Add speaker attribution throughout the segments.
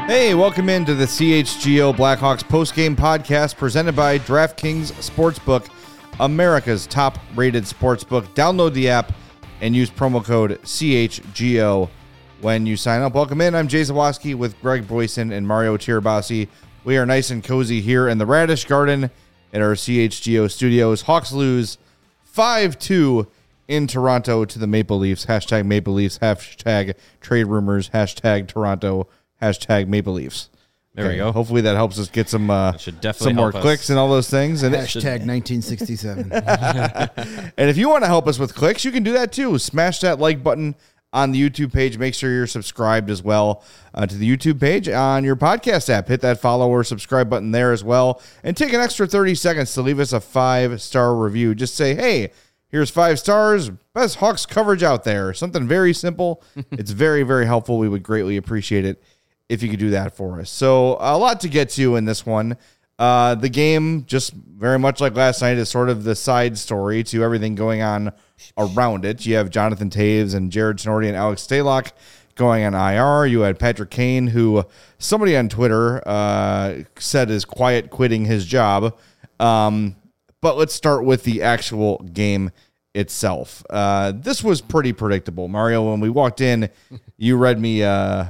Speaker 1: Hey, welcome into the CHGO Blackhawks postgame podcast presented by DraftKings Sportsbook, America's top-rated sportsbook. Download the app and use promo code CHGO when you sign up. Welcome in. I'm Jay Zawoski with Greg Boyson and Mario Tirabassi. We are nice and cozy here in the Radish Garden at our CHGO studios. Hawks lose 5-2 in Toronto to the Maple Leafs. Hashtag Maple Leafs, hashtag trade rumors, hashtag Toronto, hashtag Maple Leafs.
Speaker 2: There we go.
Speaker 1: Hopefully that helps us get some more
Speaker 2: us.
Speaker 1: clicks and all those things. And
Speaker 3: Hashtag 1967.
Speaker 1: and if you want to help us with clicks, you can do that too. Smash that like button on the YouTube page. Make sure you're subscribed as well to the YouTube page on your podcast app. Hit that follow or subscribe button there as well. And take an extra 30 seconds to leave us a 5-star review. Just say, hey, here's 5 stars. Best Hawks coverage out there. Something very simple. It's very, very helpful. We would greatly appreciate it if you could do that for us. So a lot to get to in this one. The game, just very much like last night, is sort of the side story to everything going on around it. You have Jonathan Toews and Jared Tenorti and Alex Stalock going on IR. You had Patrick Kane, who somebody on Twitter said is quiet quitting his job. But let's start with the actual game itself. This was pretty predictable. Mario, when we walked in, you read me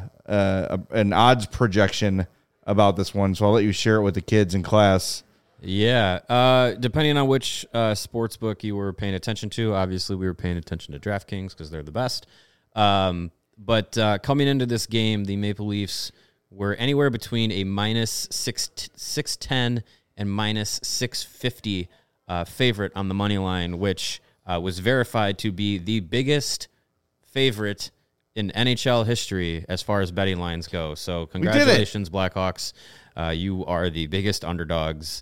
Speaker 1: an odds projection about this one, so I'll let you share it with the kids in class.
Speaker 2: Yeah, depending on which sports book you were paying attention to, obviously we were paying attention to DraftKings because they're the best. But coming into this game, the Maple Leafs were anywhere between a minus 610 and minus 650 favorite on the money line, which was verified to be the biggest favorite in NHL history as far as betting lines go. So congratulations, Blackhawks. You are the biggest underdogs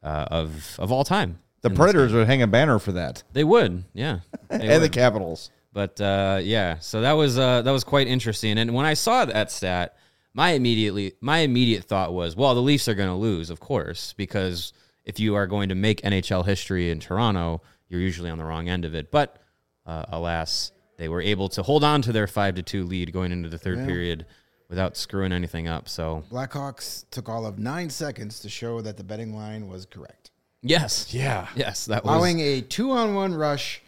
Speaker 2: of all time.
Speaker 1: The Predators would hang a banner for that.
Speaker 2: They would, yeah.
Speaker 1: And the Capitals.
Speaker 2: But yeah, so that was quite interesting. And when I saw that stat, my immediate thought was, well, the Leafs are going to lose, of course, because if you are going to make NHL history in Toronto, you're usually on the wrong end of it. But alas, they were able to hold on to their 5-2 lead going into the third period without screwing anything up. So
Speaker 3: Blackhawks took all of 9 seconds to show that the betting line was correct.
Speaker 2: yes,
Speaker 1: Yeah.
Speaker 2: yes, that was
Speaker 3: Allowing a 2-on-1 rush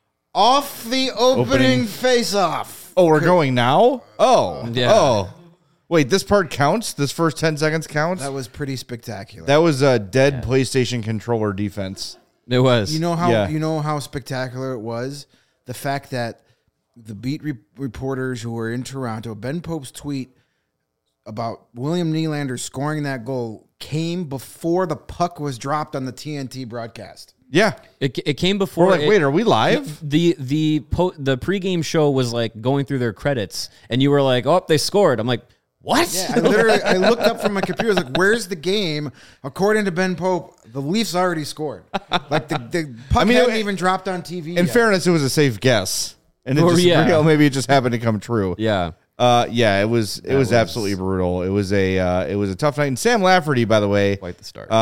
Speaker 3: off the opening face-off.
Speaker 1: Oh, we're going now? Oh.
Speaker 2: Yeah.
Speaker 1: Oh. Wait, this part counts? This first 10 seconds counts?
Speaker 3: That was pretty spectacular.
Speaker 1: That was a dead PlayStation controller defense.
Speaker 2: it was.
Speaker 3: You know how
Speaker 1: Yeah.
Speaker 3: you know how spectacular it was? The fact that the beat reporters who were in Toronto, Ben Pope's tweet about William Nylander scoring that goal came before the puck was dropped on the TNT broadcast.
Speaker 1: Yeah.
Speaker 2: It came before.
Speaker 1: We're like, wait, are we live?
Speaker 2: The pregame show was like going through their credits, and you were like, "Oh, they scored." I'm like, "What?"
Speaker 3: Yeah, I looked up from my computer. I was like, "Where's the game?" According to Ben Pope, the Leafs already scored. Like the puck hadn't even dropped on TV.
Speaker 1: In
Speaker 3: yet.
Speaker 1: fairness, it was a safe guess. And it
Speaker 2: Or,
Speaker 1: just,
Speaker 2: yeah.
Speaker 1: maybe it just happened to come true.
Speaker 2: Yeah.
Speaker 1: Yeah, it was absolutely brutal. It was a tough night. And Sam Lafferty, by the way,
Speaker 2: Quite the start.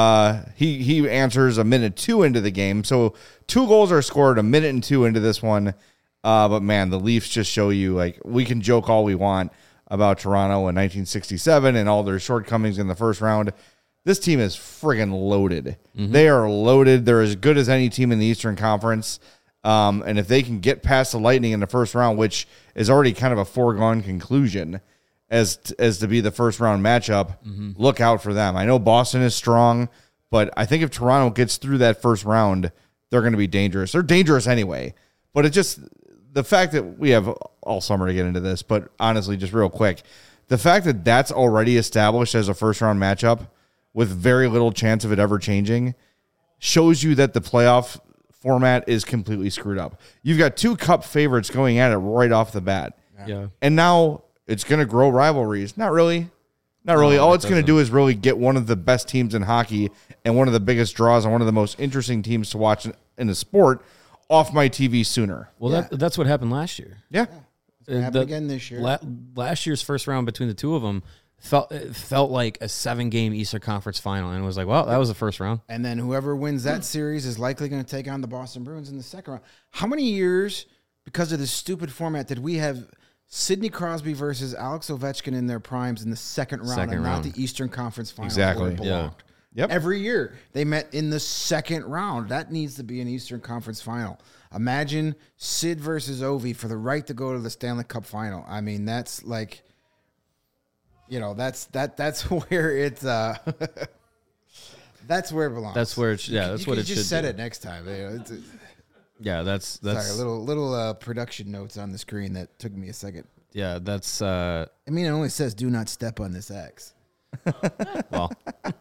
Speaker 1: he answers a minute 2 into the game. So 2 goals are scored a minute and 2 into this one. But man, the Leafs just show you, like, we can joke all we want about Toronto in 1967 and all their shortcomings in the first round. This team is friggin' loaded. Mm-hmm. They are loaded. They're as good as any team in the Eastern Conference. And if they can get past the Lightning in the first round, which is already kind of a foregone conclusion as to be the first round matchup, look out for them. I know Boston is strong, but I think if Toronto gets through that first round, they're going to be dangerous. They're dangerous anyway, but it just, the fact that we have all summer to get into this, but honestly, just real quick, the fact that that's already established as a first round matchup with very little chance of it ever changing shows you that the playoff format is completely screwed up. You've got 2 cup favorites going at it right off the bat.
Speaker 2: Yeah.
Speaker 1: And now it's going to grow rivalries. Not really. All it's going to do is really get one of the best teams in hockey and one of the biggest draws and one of the most interesting teams to watch in the sport off my TV sooner.
Speaker 2: Well, that's what happened last year.
Speaker 1: Yeah.
Speaker 3: It's gonna happen again this year.
Speaker 2: Last year's first round between the two of them felt like a 7-game Eastern Conference final, and it was like, well, that was the first round.
Speaker 3: And then whoever wins that series is likely going to take on the Boston Bruins in the second round. How many years, because of this stupid format, did we have Sidney Crosby versus Alex Ovechkin in their primes in the second round, and not the Eastern Conference Finals where it belonged.
Speaker 1: Yep.
Speaker 3: Every year they met in the second round. That needs to be an Eastern Conference Final. Imagine Sid versus Ovi for the right to go to the Stanley Cup Final. I mean, that's like, that's where it's that's where it belongs.
Speaker 2: That's where it. Yeah, that's what it should.
Speaker 3: Just said
Speaker 2: do.
Speaker 3: it next time.
Speaker 2: Yeah, that's
Speaker 3: sorry. Little production notes on the screen that took me a second.
Speaker 2: Yeah, that's.
Speaker 3: I mean, it only says "Do not step on this X."
Speaker 2: Well.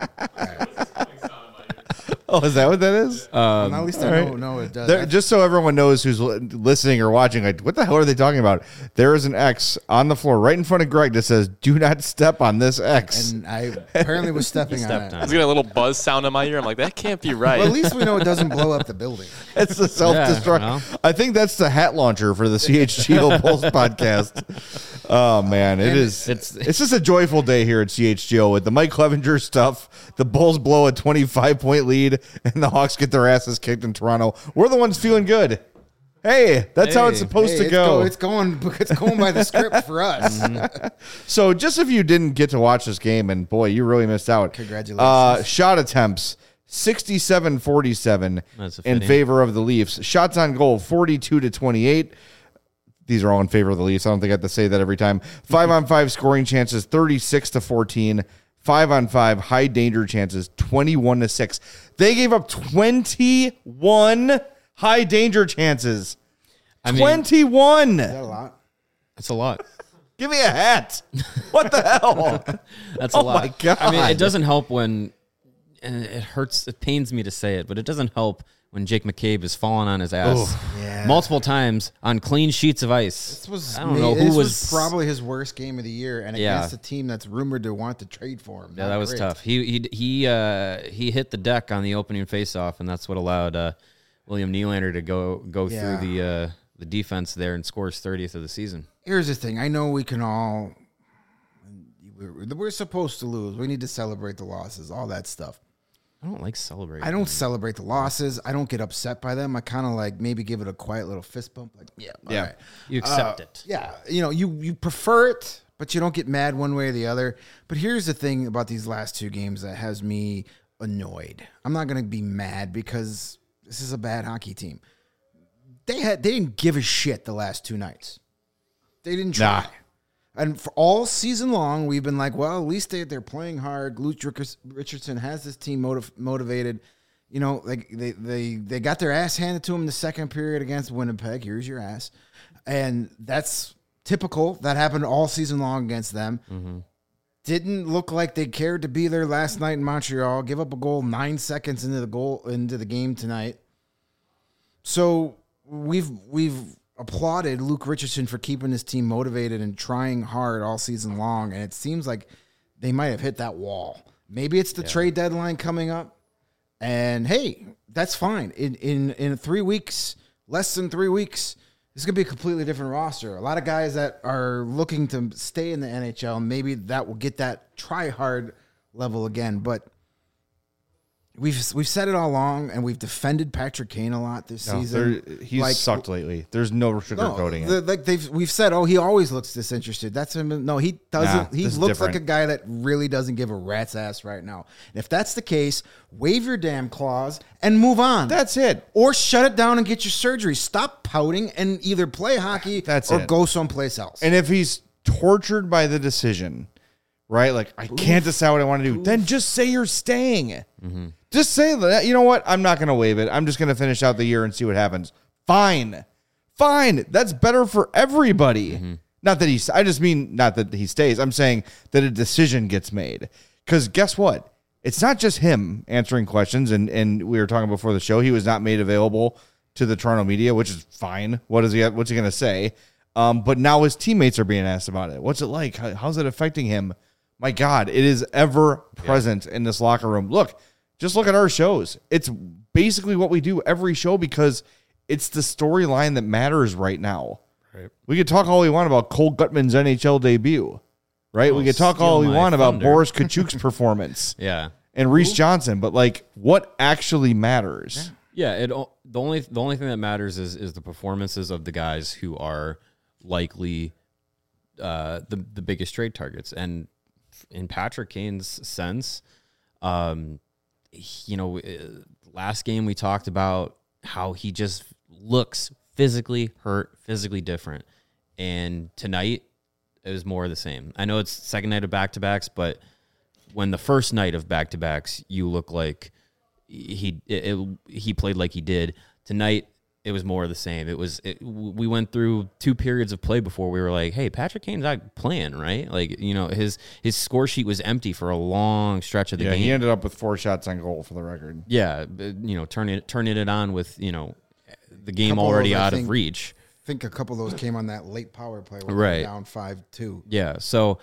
Speaker 1: Oh, is that what that is?
Speaker 3: At least I know it does.
Speaker 1: Just so everyone knows who's listening or watching, like, what the hell are they talking about? There is an X on the floor right in front of Greg that says, "Do not step on this X."
Speaker 3: And I apparently was stepping on it.
Speaker 4: I was getting a little buzz sound in my ear. I'm like, that can't be right.
Speaker 3: Well, at least we know it doesn't blow up the building.
Speaker 1: It's the self-destruct.
Speaker 2: Yeah, well.
Speaker 1: I think that's the hat launcher for the CHGO Bulls podcast. Oh man, it's just a joyful day here at CHGO with the Mike Clevenger stuff. The Bulls blow a 25-point lead, and the Hawks get their asses kicked in Toronto. We're the ones feeling good. Hey, that's how it's supposed to go.
Speaker 3: It's going by the script for us.
Speaker 1: So, just if you didn't get to watch this game, and boy, you really missed out.
Speaker 3: Congratulations.
Speaker 1: Shot attempts 67-47 in favor of the Leafs. Shots on goal 42-28. These are all in favor of the Leafs. I don't think I have to say that every time. 5-on-5 scoring chances 36-14. 5-on-5 high danger chances 21-6. They gave up 21 high danger chances. 21.
Speaker 3: Is that a lot?
Speaker 2: That's a lot.
Speaker 1: Give me a hat. What the hell?
Speaker 2: That's a lot.
Speaker 1: Oh my God.
Speaker 2: I mean, it doesn't help when, and it hurts. It pains me to say it, but it doesn't help when Jake McCabe is falling on his ass multiple times on clean sheets of ice.
Speaker 3: This was probably his worst game of the year, and
Speaker 2: Yeah.
Speaker 3: against a team that's rumored to want to trade for him.
Speaker 2: Yeah, that was tough. He hit the deck on the opening faceoff, and that's what allowed William Nylander to go
Speaker 3: Yeah.
Speaker 2: through the defense there and score his 30th of the season.
Speaker 3: Here's the thing. I know we can all. We're supposed to lose. We need to celebrate the losses, all that stuff.
Speaker 2: I don't like celebrating.
Speaker 3: I don't celebrate the losses. I don't get upset by them. I kind of like maybe give it a quiet little fist bump. Like, all right.
Speaker 2: You accept it.
Speaker 3: Yeah, you prefer it, but you don't get mad one way or the other. But here's the thing about these last two games that has me annoyed. I'm not going to be mad because this is a bad hockey team. They didn't give a shit the last two nights. They didn't try.
Speaker 1: Nah.
Speaker 3: And for all season long, we've been like, well, at least they're playing hard. Luke Richardson has this team motivated. Like they got their ass handed to them in the second period against Winnipeg. Here's your ass. And that's typical. That happened all season long against them. Mm-hmm. Didn't look like they cared to be there last night in Montreal. Give up a goal 9 seconds into the game tonight. So we've applauded Luke Richardson for keeping his team motivated and trying hard all season long, and it seems like they might have hit that wall. Maybe it's the trade deadline coming up, and hey, that's fine. In 3 weeks, less than 3 weeks, this is going to be a completely different roster. A lot of guys that are looking to stay in the NHL, maybe that will get that try-hard level again, but we've said it all along, and we've defended Patrick Kane a lot this season.
Speaker 1: He's sucked lately. There's no sugarcoating it.
Speaker 3: We've said, he always looks disinterested. That's him. No, he doesn't. He looks like a guy that really doesn't give a rat's ass right now. And if that's the case, wave your damn claws and move on.
Speaker 1: That's it.
Speaker 3: Or shut it down and get your surgery. Stop pouting and either play hockey or go someplace else.
Speaker 1: And if he's tortured by the decision, right? Like, I can't decide what I want to do. Then just say you're staying. Mm-hmm. Just say that, you know what? I'm not going to waive it. I'm just going to finish out the year and see what happens. Fine. That's better for everybody. Mm-hmm. Not that he stays. I'm saying that a decision gets made. Because guess what? It's not just him answering questions. And we were talking before the show. He was not made available to the Toronto media, which is fine. What's he going to say? But now his teammates are being asked about it. What's it like? How's it affecting him? My God, it is ever present in this locker room. Just look at our shows. It's basically what we do every show because it's the storyline that matters right now. Right. We could talk all we want about Cole Gutman's NHL debut, right? We could talk all we want about Boris Kachuk's performance.
Speaker 2: Yeah.
Speaker 1: And Reese Johnson, but what actually matters?
Speaker 2: Yeah, the only thing that matters is the performances of the guys who are likely the biggest trade targets. And in Patrick Kane's sense, last game we talked about how he just looks physically hurt, physically different. And tonight, it was more of the same. I know it's second night of back-to-backs, but when the first night of back-to-backs, you look like he played like he did. Tonight, it was more of the same. We went through 2 periods of play before we were like, hey, Patrick Kane's not playing, right? Like, his score sheet was empty for a long stretch of the game.
Speaker 1: He ended up with 4 shots on goal for the record.
Speaker 2: Yeah, turning it on with, the game already out of reach.
Speaker 3: I think a couple of those came on that late power play where
Speaker 2: right.
Speaker 3: they were down 5-2.
Speaker 2: Yeah, so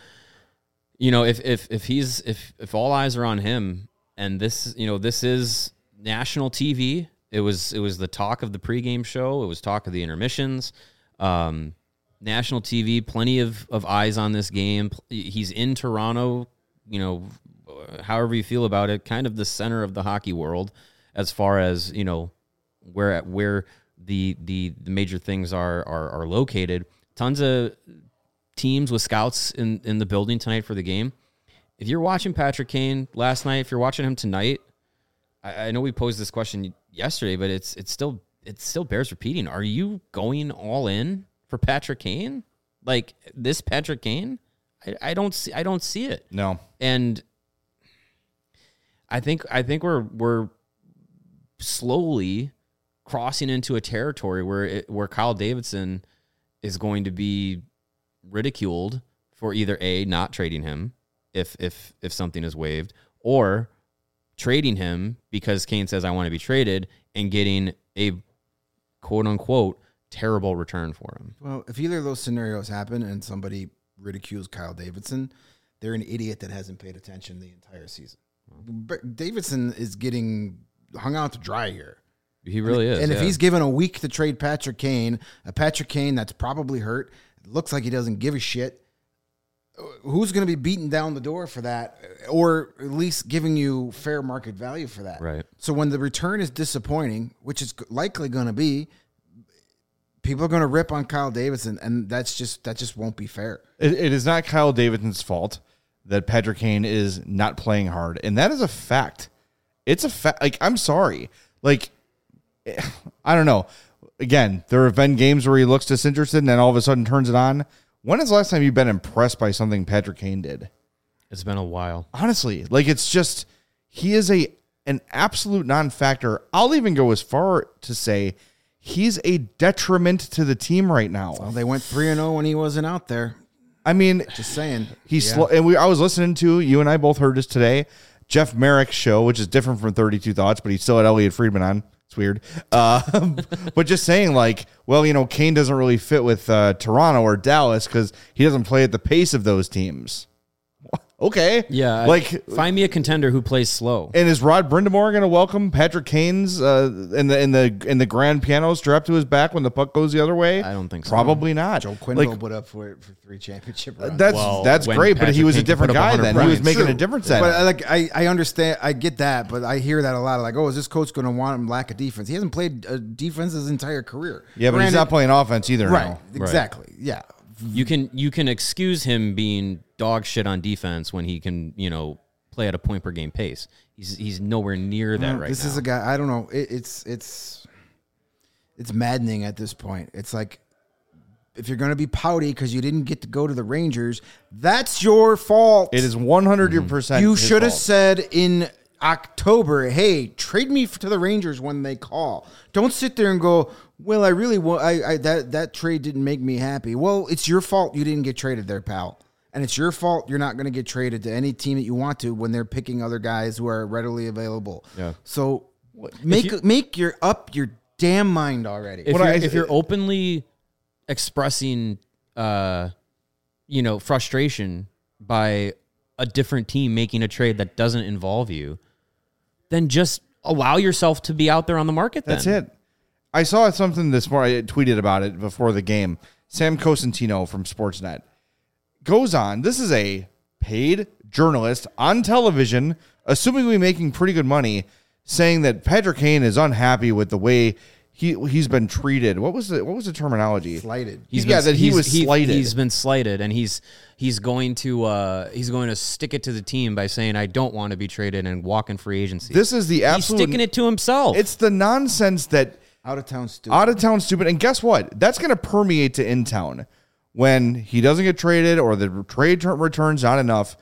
Speaker 2: if all eyes are on him, and this is national TV. It was the talk of the pregame show. It was talk of the intermissions. National TV, plenty of eyes on this game. He's in Toronto. However you feel about it, kind of the center of the hockey world as far as where the major things are located. Tons of teams with scouts in the building tonight for the game. If you're watching Patrick Kane last night, if you're watching him tonight, I know we posed this question yesterday, but it still bears repeating. Are you going all in for Patrick Kane? Like this Patrick Kane? I don't see it.
Speaker 1: No.
Speaker 2: And I think we're slowly crossing into a territory where Kyle Davidson is going to be ridiculed for either A, not trading him if something is waived, or trading him because Kane says I want to be traded and getting a quote unquote terrible return for him.
Speaker 3: Well, if either of those scenarios happen and somebody ridicules Kyle Davidson, they're an idiot that hasn't paid attention the entire season. But Davidson is getting hung out to dry here.
Speaker 2: He really is.
Speaker 3: And if he's given a week to trade Patrick Kane, a Patrick Kane that's probably hurt, looks like he doesn't give a shit, who's going to be beating down the door for that, or at least giving you fair market value for that?
Speaker 2: Right.
Speaker 3: So when the return is disappointing, which is likely going to be, people are going to rip on Kyle Davidson, and that just won't be fair.
Speaker 1: It is not Kyle Davidson's fault that Patrick Kane is not playing hard, and that is a fact. It's a fact. Like, I'm sorry. Like, I don't know. Again, there have been games where he looks disinterested and then all of a sudden turns it on. When is the last time you've been impressed by something Patrick Kane did?
Speaker 2: It's been a while.
Speaker 1: Honestly, like, it's just, he is an absolute non-factor. I'll even go as far to say he's a detriment to the team right now.
Speaker 3: Well, they went 3-0 when he wasn't out there.
Speaker 1: I mean,
Speaker 3: Just saying.
Speaker 1: he's slow. And I was listening to, you and I both heard this today, Jeff Merrick's show, which is different from 32 Thoughts, but he still had Elliot Friedman on. It's weird. But just saying, like, well, Kane doesn't really fit with Toronto or Dallas because he doesn't play at the pace of those teams. Okay.
Speaker 2: Yeah.
Speaker 1: Like,
Speaker 2: find me a contender who plays slow.
Speaker 1: and is Rod Brindamore going to welcome Patrick Kane's in the grand piano strapped to his back when the puck goes the other way?
Speaker 2: I don't think so.
Speaker 1: Probably not.
Speaker 3: Joe Quenneville put up for 3 championship runs.
Speaker 1: That's
Speaker 2: when
Speaker 1: great, but he
Speaker 2: Patrick
Speaker 1: was a
Speaker 2: Kane
Speaker 1: different
Speaker 2: put up
Speaker 1: guy
Speaker 2: 100
Speaker 1: then. He was
Speaker 2: points.
Speaker 1: making
Speaker 3: True.
Speaker 1: a difference then.
Speaker 3: But like I understand, I get that, but I hear that a lot. Like, oh, is this coach going to want him lack of defense? He hasn't played defense his entire career.
Speaker 1: Yeah, but he's
Speaker 3: Granted-
Speaker 1: not playing offense either
Speaker 3: right.
Speaker 1: now.
Speaker 3: Exactly. Yeah.
Speaker 2: You can excuse him being dog shit on defense when he can, play at a point per game pace. He's nowhere near that right
Speaker 3: This
Speaker 2: now.
Speaker 3: is a guy. I don't know. It's maddening at this point. It's like, if you're going to be pouty because you didn't get to go to the Rangers, that's your fault.
Speaker 1: It is 100%.
Speaker 3: You
Speaker 1: his
Speaker 3: should have
Speaker 1: fault.
Speaker 3: said in October, hey, trade me to the Rangers when they call. Don't sit there and go, well, I really want that trade didn't make me happy. Well, it's your fault you didn't get traded there, pal. And it's your fault you're not going to get traded to any team that you want to when they're picking other guys who are readily available.
Speaker 2: Yeah.
Speaker 3: So make your damn mind already.
Speaker 2: If you're openly expressing, frustration by a different team making a trade that doesn't involve you, then just allow yourself to be out there on the market.
Speaker 1: That's it. I saw something this morning. I tweeted about it before the game. Sam Cosentino from Sportsnet goes on. This is a paid journalist on television, assuming we're making pretty good money, saying that Patrick Kane is unhappy with the way he's been treated. What was the terminology?
Speaker 3: Slighted.
Speaker 1: He was slighted.
Speaker 2: He's been slighted, and he's going to stick it to the team by saying, "I don't want to be traded," and walk in free agency.
Speaker 1: This is the absolute.
Speaker 2: He's sticking it to himself.
Speaker 1: It's the nonsense that
Speaker 3: Out of town stupid. And
Speaker 1: guess what? That's going to permeate to in town when he doesn't get traded or the trade return's not enough.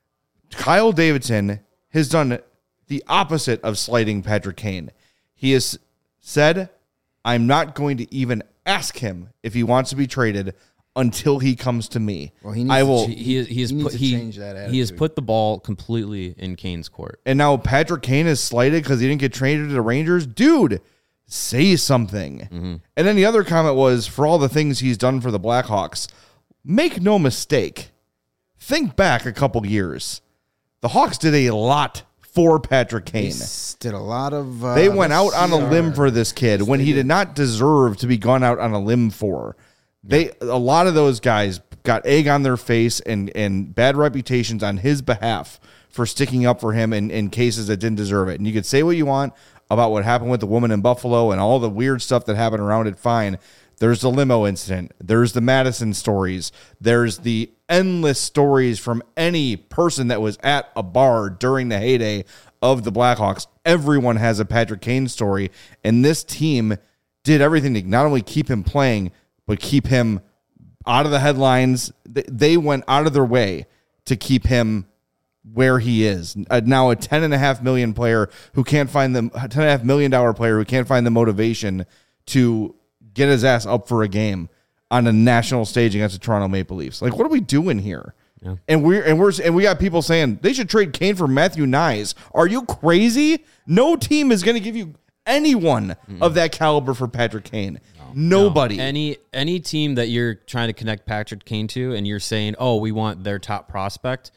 Speaker 1: Kyle Davidson has done the opposite of slighting Patrick Kane. He has said, I'm not going to even ask him if he wants to be traded until he comes to me.
Speaker 3: Well, he needs
Speaker 2: to
Speaker 3: change that attitude.
Speaker 2: He has put the ball completely in Kane's court.
Speaker 1: And now Patrick Kane is slighted because he didn't get traded to the Rangers. Dude, say something.
Speaker 2: Mm-hmm.
Speaker 1: And then the other comment was, for all the things he's done for the Blackhawks, make no mistake. Think back a couple years. The Hawks did a lot for Patrick Kane.
Speaker 3: Did a lot of...
Speaker 1: they went out on a limb for this kid when he did not deserve to be gone out on a limb for. A lot of those guys got egg on their face and bad reputations on his behalf for sticking up for him in cases that didn't deserve it. And you could say what you want about what happened with the woman in Buffalo and all the weird stuff that happened around it, fine. There's the limo incident. There's the Madison stories. There's the endless stories from any person that was at a bar during the heyday of the Blackhawks. Everyone has a Patrick Kane story, and this team did everything to not only keep him playing, but keep him out of the headlines. They went out of their way to keep him where he is. Now a $10.5 million player who can't find the $10.5 million player who can't find the motivation to get his ass up for a game on a national stage against the Toronto Maple Leafs. Like, what are we doing here? Yeah. And we got people saying they should trade Kane for Matthew Nyes. Are you crazy? No team is going to give you anyone of that caliber for Patrick Kane. Nobody.
Speaker 2: No. Any team that you're trying to connect Patrick Kane to, and you're saying, "Oh, we want their top prospect,"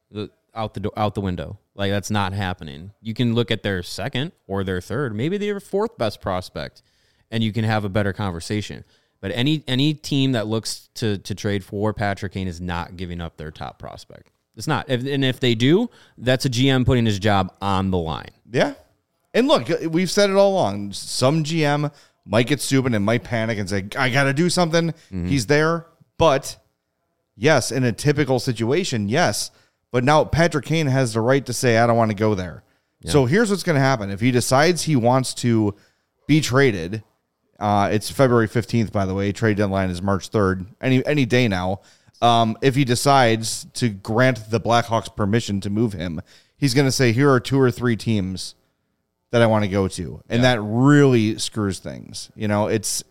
Speaker 2: out the window. Like, that's not happening. You can look at their second or their third, maybe their fourth best prospect, and you can have a better conversation. But any team that looks to trade for Patrick Kane is not giving up their top prospect. It's not. And if they do, that's a GM putting his job on the line.
Speaker 1: Yeah. And look, we've said it all along. Some GM might get stupid and might panic and say, I got to do something. Mm-hmm. He's there. But, yes, in a typical situation, yes. But now Patrick Kane has the right to say, I don't want to go there. Yeah. So here's what's going to happen. If he decides he wants to be traded, it's February 15th, by the way. Trade deadline is March 3rd. Any day now. If he decides to grant the Blackhawks permission to move him, he's going to say, here are 2 or 3 teams that I want to go to. And that really screws things. You know, it's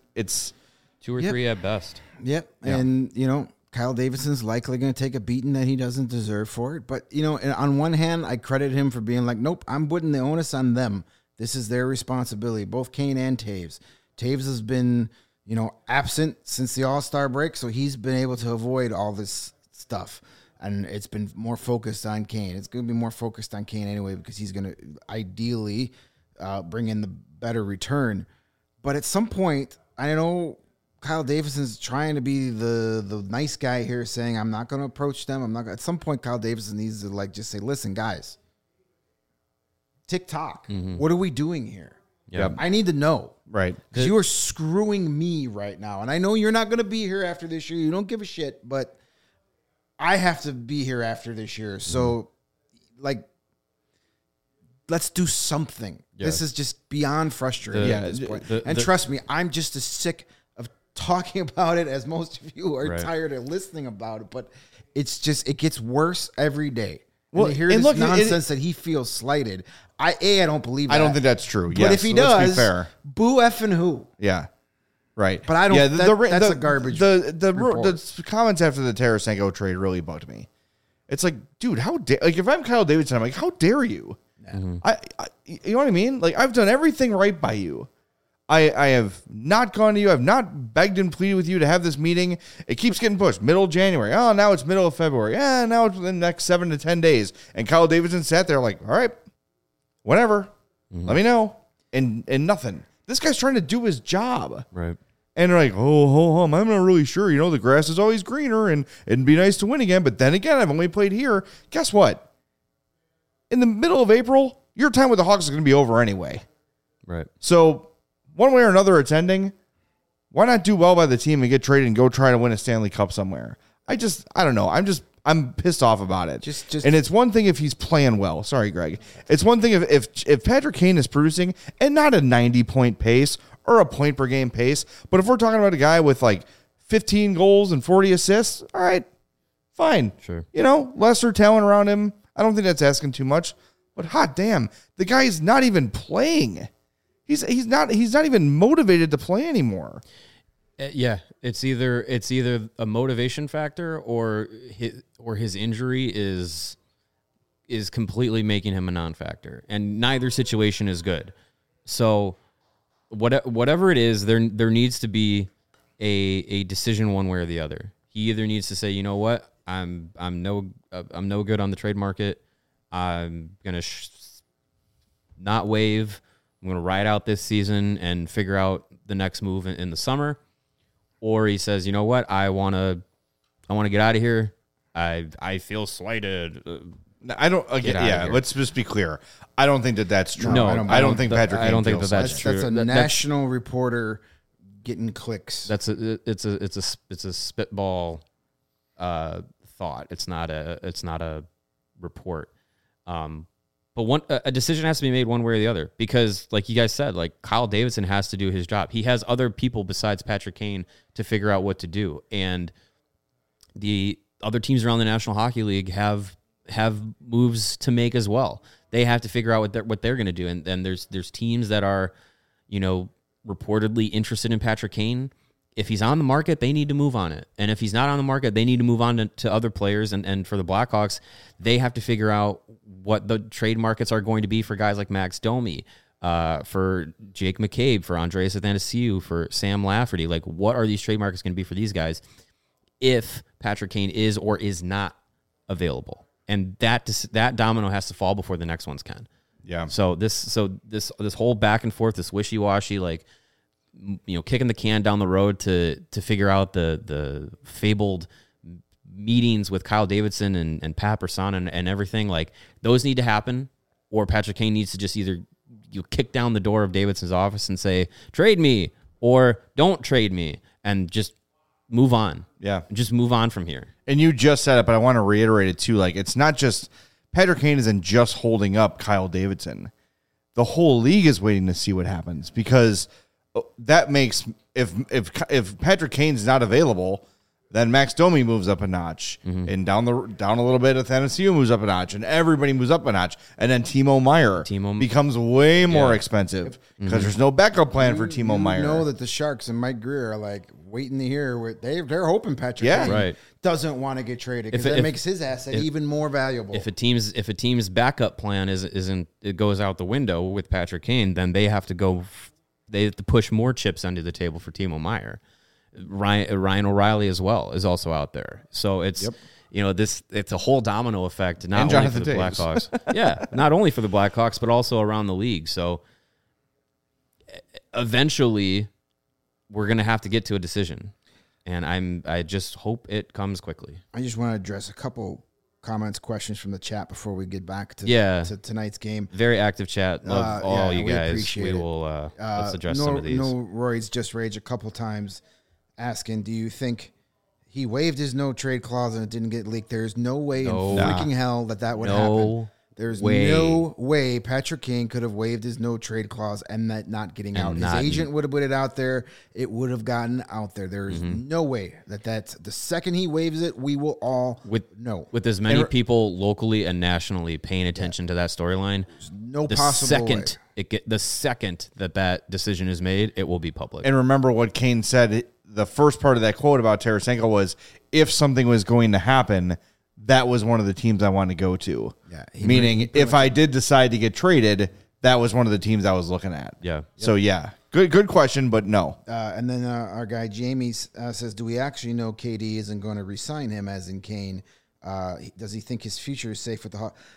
Speaker 2: 2 or 3 at best.
Speaker 3: Yep. And, Kyle Davidson's likely going to take a beating that he doesn't deserve for it. But, on one hand, I credit him for being like, nope, I'm putting the onus on them. This is their responsibility, both Kane and Taves. Taves has been, absent since the All-Star break, so he's been able to avoid all this stuff. And it's been more focused on Kane. It's going to be more focused on Kane anyway because he's going to ideally bring in the better return. But at some point, I know Kyle Davidson's trying to be the nice guy here, saying, I'm not going to approach them. At some point, Kyle Davidson needs to just say, listen, guys, tick-tock. Mm-hmm. What are we doing here?
Speaker 1: Yep.
Speaker 3: I need to know.
Speaker 1: Right.
Speaker 3: Because you are screwing me right now. And I know you're not going to be here after this year. You don't give a shit, but I have to be here after this year. So, let's do something. Yeah. This is just beyond frustrating at this point. Trust me, I'm just as sick of talking about it as most of you are tired of listening about it. But it's just, it gets worse every day. Well, and hear this nonsense that he feels slighted. I don't believe that.
Speaker 1: I don't think that's true.
Speaker 3: But if he does, boo effing who?
Speaker 1: Yeah. Right.
Speaker 3: But I don't. Yeah, that's a garbage.
Speaker 1: The comments after the Tarasenko trade really bugged me. It's like, dude, how dare? Like, if I'm Kyle Davidson, I'm like, how dare you? Mm-hmm. You know what I mean? Like, I've done everything right by you. I have not gone to you. I've not begged and pleaded with you to have this meeting. It keeps getting pushed. Middle of January. Oh, now it's middle of February. Yeah, now it's within the next 7 to 10 days. And Kyle Davidson sat there like, all right, whatever. Mm-hmm. Let me know. And nothing. This guy's trying to do his job.
Speaker 2: Right.
Speaker 1: And they're like, I'm not really sure. The grass is always greener and it'd be nice to win again. But then again, I've only played here. Guess what? In the middle of April, your time with the Hawks is going to be over anyway.
Speaker 2: Right.
Speaker 1: So one way or another, it's ending. Why not do well by the team and get traded and go try to win a Stanley Cup somewhere? I don't know. I'm pissed off about it. And it's one thing if he's playing well. Sorry, Greg. It's one thing if Patrick Kane is producing and not a 90-point pace or a point per game pace, but if we're talking about a guy with like 15 goals and 40 assists, all right, fine.
Speaker 2: Sure.
Speaker 1: Lesser talent around him. I don't think that's asking too much. But hot damn, the guy's not even playing. He's not even motivated to play anymore.
Speaker 2: Yeah, it's either a motivation factor or his injury is completely making him a non-factor, and neither situation is good. So whatever it is, there needs to be a decision one way or the other. He either needs to say, you know what, I'm no good on the trade market. I'm gonna not waive. I'm gonna ride out this season and figure out the next move in the summer. Or he says, you know what, I want to get out of here. I feel slighted.
Speaker 1: I don't. Let's just be clear. I don't think that's true.
Speaker 2: No,
Speaker 1: I don't think Patrick.
Speaker 2: I don't think
Speaker 1: feels
Speaker 2: that's true.
Speaker 3: That's a national reporter getting clicks.
Speaker 2: It's a spitball thought. It's not a report. But a decision has to be made one way or the other, because like you guys said, like Kyle Davidson has to do his job. He has other people besides Patrick Kane to figure out what to do. And the other teams around the National Hockey League have moves to make as well. They have to figure out what they're going to do. And then there's teams that are, reportedly interested in Patrick Kane. If he's on the market, they need to move on it. And if he's not on the market, they need to move on to other players. And for the Blackhawks, they have to figure out what the trade markets are going to be for guys like Max Domi, for Jake McCabe, for Andreas Athanasiou, for Sam Lafferty. Like, what are these trade markets going to be for these guys if Patrick Kane is or is not available? And that domino has to fall before the next ones can.
Speaker 1: Yeah.
Speaker 2: So this whole back and forth, this wishy-washy, like, kicking the can down the road to figure out the fabled meetings with Kyle Davidson and Pat Brisson and everything, like, those need to happen, or Patrick Kane needs to just either kick down the door of Davidson's office and say, trade me, or don't trade me, and just move on.
Speaker 1: Yeah.
Speaker 2: Just move on from here.
Speaker 1: And you just said it, but I want to reiterate it too. Like, it's not just Patrick Kane isn't just holding up Kyle Davidson. The whole league is waiting to see what happens, because that makes if Patrick Kane's not available, then Max Domi moves up a notch, and down a little bit, Athanasiou moves up a notch, and everybody moves up a notch, and then Timo Meier becomes way more expensive because there's no backup plan for Timo Meier.
Speaker 3: You know that the Sharks and Mike Greer are like waiting to hear they're hoping Patrick Kane doesn't want to get traded, because that makes his asset even more valuable.
Speaker 2: If a team's backup plan it goes out the window with Patrick Kane, then they have to push more chips under the table for Timo Meier. Ryan O'Reilly as well is also out there. So it's it's a whole domino effect, not only for the Blackhawks. Not only for the Blackhawks, but also around the league. So eventually we're going to have to get to a decision, and I just hope it comes quickly.
Speaker 3: I just want to address a couple comments, questions from the chat before we get back to tonight's game.
Speaker 2: Very active chat. Love all you guys.
Speaker 3: Appreciate
Speaker 2: we will let's address some of these.
Speaker 3: Roy's just raged a couple times asking, do you think he waived his no trade clause and it didn't get leaked? There's no way in freaking hell that would happen. There's no way Patrick Kane could have waived his no trade clause and that not getting out. His agent would have put it out there. It would have gotten out there. There's no way that's the second he waives it, we will all know.
Speaker 2: With as many people locally and nationally paying attention to that storyline, the second that decision is made, it will be public.
Speaker 1: And remember what Kane said. The first part of that quote about Tarasenko was, if something was going to happen, that was one of the teams I wanted to go to. Yeah, meaning if I did decide to get traded, that was one of the teams I was looking at.
Speaker 2: Yeah.
Speaker 1: So, good question, but no.
Speaker 3: And then our guy Jamie says, do we actually know KD isn't going to re-sign him, as in Kane? Does he think his future is safe with the Hawks?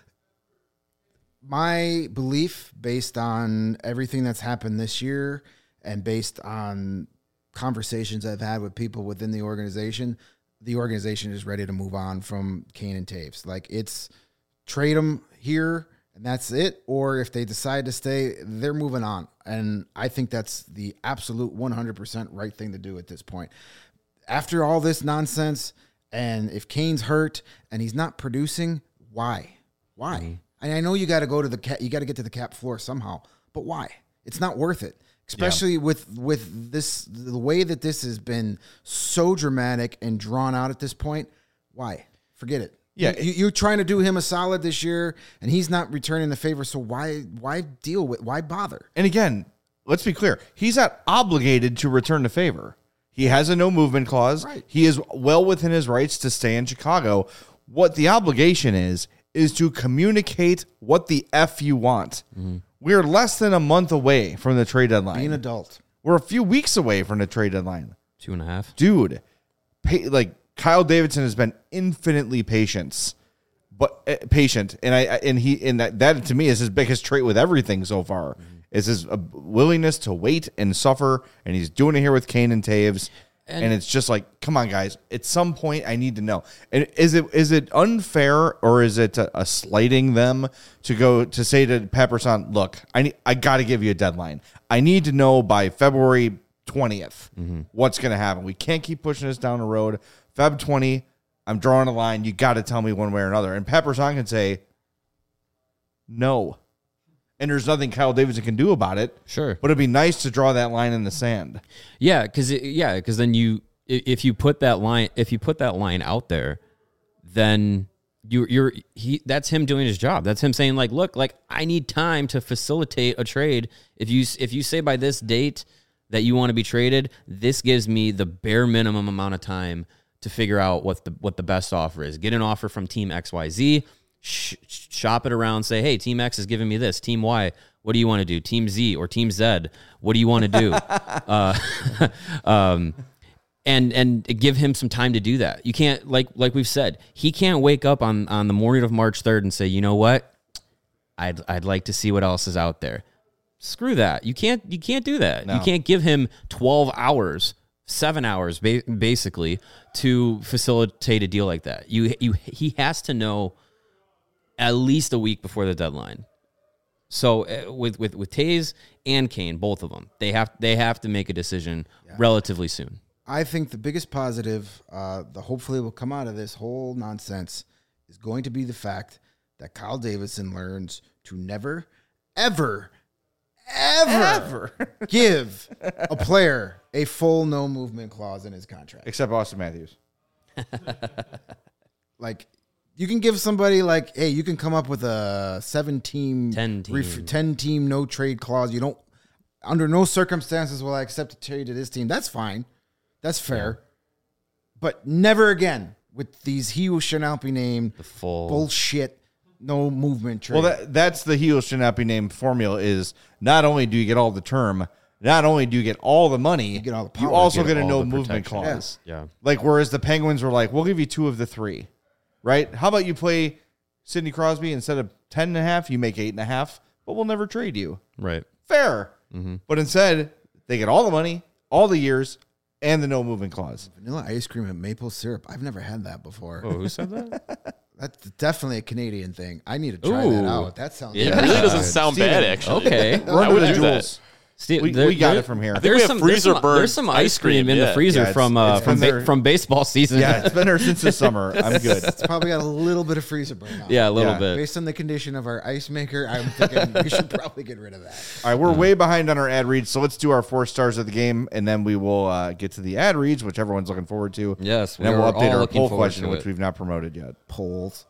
Speaker 3: My belief, based on everything that's happened this year and based on conversations I've had with people within the organization is ready to move on from Kane and Taves. Like, it's trade him here and that's it. Or if they decide to stay, they're moving on. And I think that's the absolute 100% right thing to do at this point. After all this nonsense, and if Kane's hurt and he's not producing, why? Why? And I know you got to go to you got to get to the cap floor somehow, but why? It's not worth it. Especially with this, the way that this has been so dramatic and drawn out at this point. Why? Forget it.
Speaker 1: Yeah,
Speaker 3: you're trying to do him a solid this year, and he's not returning the favor. So why deal with? Why bother?
Speaker 1: And again, let's be clear. He's not obligated to return the favor. He has a no movement clause.
Speaker 3: Right.
Speaker 1: He is well within his rights to stay in Chicago. What the obligation is to communicate what the F you want. Mm-hmm. We're less than a month away from the trade deadline.
Speaker 3: Be an adult.
Speaker 1: We're a few weeks away from the trade deadline.
Speaker 2: 2.5.
Speaker 1: Dude, Kyle Davidson has been infinitely patient, and that to me is his biggest trait with everything so far. Mm-hmm. Is his willingness to wait and suffer, and he's doing it here with Kane and Taves. And it's just like, come on, guys. At some point, I need to know. And is it unfair, or is it a slighting them to say to Pat Brisson, look, I got to give you a deadline. I need to know by February 20th what's going to happen. We can't keep pushing this down the road. Feb 20, I'm drawing a line. You got to tell me one way or another. And Pat Brisson can say no. And there's nothing Kyle Davidson can do about it.
Speaker 2: Sure.
Speaker 1: But it'd be nice to draw that line in the sand.
Speaker 2: Yeah, because then if you put that line out there, then that's him doing his job. That's him saying, like, look, like, I need time to facilitate a trade. If you say by this date that you want to be traded, this gives me the bare minimum amount of time to figure out what the best offer is. Get an offer from Team XYZ. Shop it around, say, hey, Team X is giving me this. Team Y, what do you want to do? Team Z or Team Z, what do you want to do? And give him some time to do that. You can't, like we've said, he can't wake up on the morning of March 3rd and say, you know what? I'd like to see what else is out there. Screw that. You can't do that.
Speaker 1: No.
Speaker 2: You can't give him 12 hours, 7 hours, basically, to facilitate a deal like that. He has to know at least a week before the deadline. So with Taves and Kane, both of them, they have to make a decision relatively soon.
Speaker 3: I think the biggest positive, hopefully will come out of this whole nonsense, is going to be the fact that Kyle Davidson learns to never, ever give a player a full no movement clause in his contract.
Speaker 1: Except Austin Matthews.
Speaker 3: Like, you can give somebody like, hey, you can come up with a 10 team no trade clause. You don't, under no circumstances will I accept a trade to this team. That's fine. That's fair. Yeah. But never again with these he who shall not be named
Speaker 2: the full
Speaker 3: bullshit no movement trade.
Speaker 1: Well, that's the he who shall not be named formula is not only do you get all the term, not only do you get all the money,
Speaker 3: you get all the power,
Speaker 1: you also get a
Speaker 2: all
Speaker 1: no
Speaker 2: the
Speaker 1: movement
Speaker 2: protection.
Speaker 1: clause.
Speaker 2: Yeah.
Speaker 1: Like, whereas the Penguins were like, we'll give you 2 of the 3. Right? How about you play Sidney Crosby instead of 10.5, you make 8.5, but we'll never trade you.
Speaker 2: Right.
Speaker 1: Fair. Mm-hmm. But instead, they get all the money, all the years, and the no movement clause.
Speaker 3: Vanilla ice cream and maple syrup. I've never had that before.
Speaker 2: Oh, who said that?
Speaker 3: That's definitely a Canadian thing. I need to try that out. That sounds
Speaker 4: It really doesn't sound bad, actually.
Speaker 2: Okay.
Speaker 4: I would do that.
Speaker 2: Steve,
Speaker 1: we got it from here.
Speaker 2: There's some ice cream in the freezer from baseball season.
Speaker 1: Yeah, it's been there since the summer. I'm good.
Speaker 3: It's probably got a little bit of freezer burn on.
Speaker 2: Yeah, a little bit.
Speaker 3: Based on the condition of our ice maker, I'm thinking we should probably get rid of that.
Speaker 1: All right, we're way behind on our ad reads, so let's do our 4 stars of the game, and then we will get to the ad reads, which everyone's looking forward to.
Speaker 2: Yes,
Speaker 1: and then we'll update our poll
Speaker 2: question,
Speaker 1: question, which we've not promoted yet.
Speaker 3: Polls.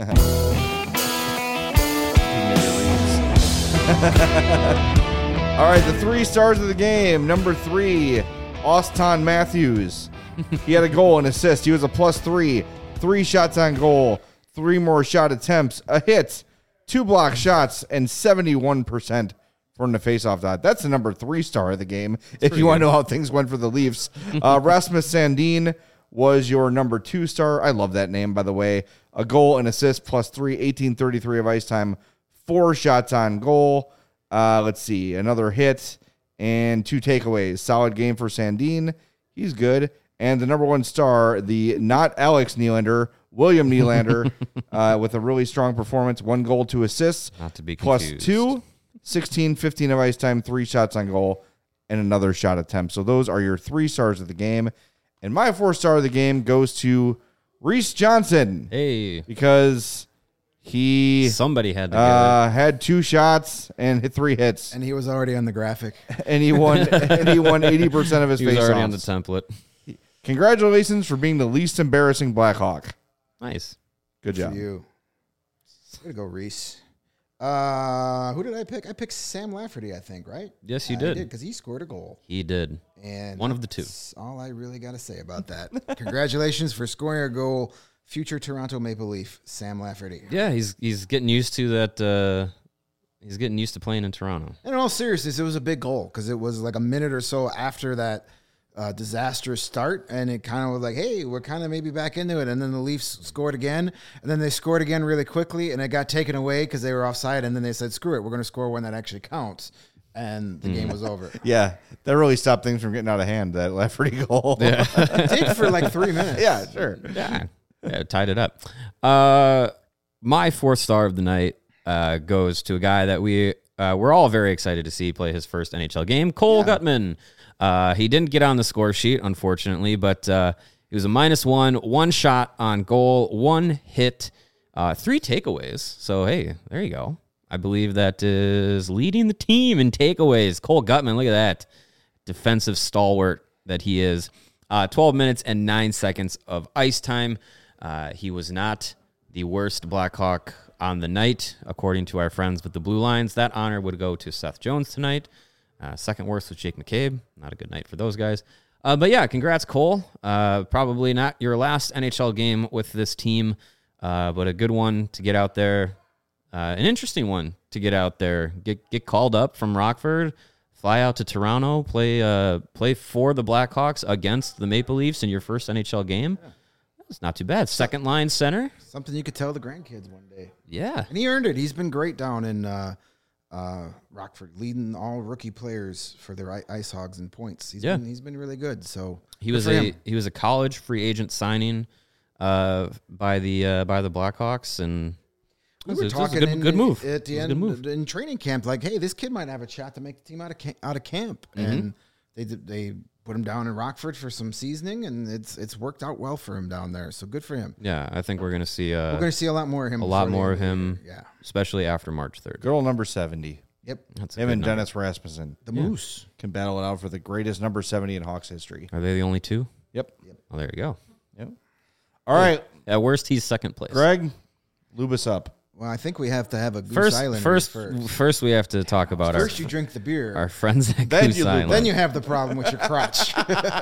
Speaker 1: All right, the 3 stars of the game. Number 3, Austin Matthews. He had a goal and assist. He was a +3. 3 shots on goal, 3 more shot attempts, a hit, 2 block shots, and 71% from the faceoff dot. That's the number 3 star of the game. If you want to know how things went for the Leafs, Rasmus Sandin was your number 2 star. I love that name, by the way. A goal and assist, +3, 18:33 of ice time, 4 shots on goal. Let's see, another hit and 2 takeaways. Solid game for Sandin. He's good. And the number 1 star, the not Alex Nylander, William Nylander, with a really strong performance, 1 goal, 2 assists,
Speaker 2: Not to be
Speaker 1: plus
Speaker 2: confused.
Speaker 1: 2, 16, 15 of ice time, 3 shots on goal, and another shot attempt. So those are your 3 stars of the game. And my 4 star of the game goes to Reese Johnson
Speaker 2: Hey,
Speaker 1: because he
Speaker 2: somebody had to get
Speaker 1: had 2 shots and hit 3 hits,
Speaker 3: And he was already on the graphic.
Speaker 1: and he won 80% of his
Speaker 2: it. He was already on the
Speaker 1: faceoffs.
Speaker 2: template.
Speaker 1: Congratulations for being the least embarrassing Blackhawk.
Speaker 2: Nice.
Speaker 1: Good
Speaker 3: For
Speaker 1: job.
Speaker 3: you. Way to go, Reese. Who did I pick? I picked Sam Lafferty, I think, right?
Speaker 2: Yes, you
Speaker 3: I
Speaker 2: did.
Speaker 3: because he scored a goal.
Speaker 2: He did.
Speaker 3: And
Speaker 2: One of the 2.
Speaker 3: that's all I really got to say about that. Congratulations for scoring a goal, future Toronto Maple Leaf, Sam Lafferty.
Speaker 2: Yeah, he's getting used to that. He's getting used to playing in Toronto.
Speaker 3: And in all seriousness, it was a big goal because it was like a minute or so after that disastrous start, and it kind of was like, hey, we're kind of maybe back into it. And then the Leafs scored again, and then they scored again really quickly, and it got taken away because they were offside, and then they said, screw it, we're going to score one that actually counts. And the game was over.
Speaker 1: Yeah, that really stopped things from getting out of hand, that Lafferty goal. Yeah,
Speaker 3: It did for like 3 minutes.
Speaker 1: yeah, sure.
Speaker 2: Yeah, tied it up. My 4th star of the night goes to a guy that we're all very excited to see play his first NHL game, Cole Guttman. He didn't get on the score sheet, unfortunately, but he was a -1, 1 shot on goal, 1 hit, 3 takeaways. So, hey, there you go. I believe that is leading the team in takeaways. Cole Guttman, look at that. Defensive stalwart that he is. 12 minutes and 9 seconds of ice time. He was not the worst Blackhawk on the night, according to our friends with the Blue Lines. That honor would go to Seth Jones tonight. Second worst was Jake McCabe. Not a good night for those guys. But yeah, congrats, Cole. Probably not your last NHL game with this team, but a good one to get out there. An interesting one to get out there. Get called up from Rockford, fly out to Toronto, play for the Blackhawks against the Maple Leafs in your first NHL game. It's not too bad. Second line center.
Speaker 3: Something you could tell the grandkids one day.
Speaker 2: Yeah.
Speaker 3: And he earned it. He's been great down in Rockford, leading all rookie players for their Ice Hogs in points. He's been really good. So
Speaker 2: He was a college free agent signing by the Blackhawks, and
Speaker 3: we
Speaker 2: it
Speaker 3: were
Speaker 2: was a
Speaker 3: talking
Speaker 2: good move.
Speaker 3: At the
Speaker 2: It was a
Speaker 3: end
Speaker 2: good move.
Speaker 3: in training camp, like, hey, this kid might have a shot to make the team out of camp, and they put him down in Rockford for some seasoning, and it's worked out well for him down there. So good for him.
Speaker 2: Yeah, I think we're gonna see
Speaker 3: We're going to see a lot more of him.
Speaker 2: a lot
Speaker 3: before the
Speaker 2: more
Speaker 3: end
Speaker 2: of
Speaker 3: the
Speaker 2: him,
Speaker 3: year. Yeah.
Speaker 2: especially after March 3rd.
Speaker 1: Girl number 70.
Speaker 3: Yep.
Speaker 2: That's a
Speaker 1: Him
Speaker 2: good
Speaker 1: and
Speaker 2: number.
Speaker 1: Dennis Rasmussen
Speaker 3: The Moose.
Speaker 1: can battle it out for the greatest number 70 in Hawks history.
Speaker 2: Are they the only 2?
Speaker 1: Yep.
Speaker 2: Oh, there you go.
Speaker 1: Yep. All right,
Speaker 2: At worst, he's second place.
Speaker 1: Greg, lube us up.
Speaker 3: Well, I think we have to have a Goose Island
Speaker 2: First, we have to talk about
Speaker 3: First you drink the beer.
Speaker 2: our friends at
Speaker 1: Then
Speaker 2: Goose
Speaker 1: you lose.
Speaker 2: Island.
Speaker 3: Then you have the problem with your crotch.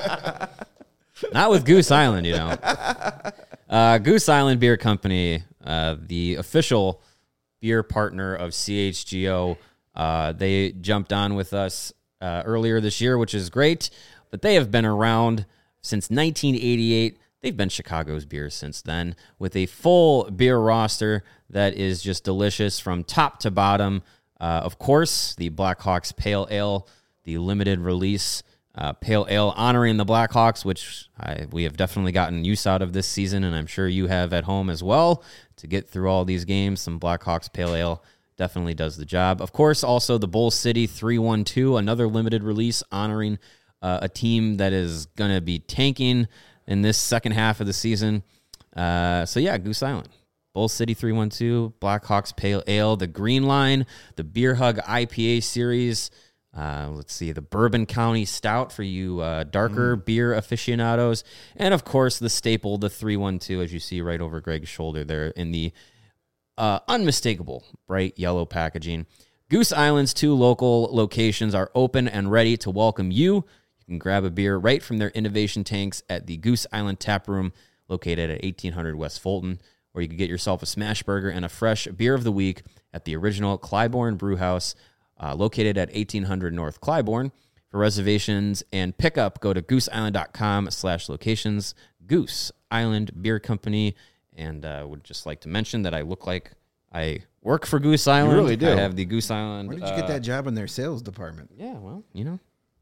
Speaker 2: Not with Goose Island, you know. Goose Island Beer Company, the official beer partner of CHGO. They jumped on with us earlier this year, which is great. But they have been around since 1988. They've been Chicago's beer since then, with a full beer roster that is just delicious from top to bottom. Of course, the Blackhawks Pale Ale, the limited release Pale Ale honoring the Blackhawks, which we have definitely gotten use out of this season, and I'm sure you have at home as well. To get through all these games, some Blackhawks Pale Ale definitely does the job. Of course, also the Bull City 312, another limited release honoring a team that is going to be tanking in this second half of the season. So yeah, Goose Island. Bull City 312, Blackhawks Pale Ale, the Green Line, the Beer Hug IPA series. Let's see, the Bourbon County Stout for you darker beer aficionados. And, of course, the staple, the 312, as you see right over Greg's shoulder there in the unmistakable bright yellow packaging. Goose Island's 2 local locations are open and ready to welcome you. You can grab a beer right from their innovation tanks at the Goose Island Tap Room, located at 1800 West Fulton, or you can get yourself a smash burger and a fresh beer of the week at the original Clybourne Brew House, located at 1800 North Clybourne. For reservations and pickup, go to gooseisland.com/locations. Goose Island Beer Company. And would just like to mention that I look like I work for Goose Island.
Speaker 1: really do.
Speaker 2: I have the Goose Island.
Speaker 3: Where did you get that job in their sales department?
Speaker 2: Yeah, well, you know,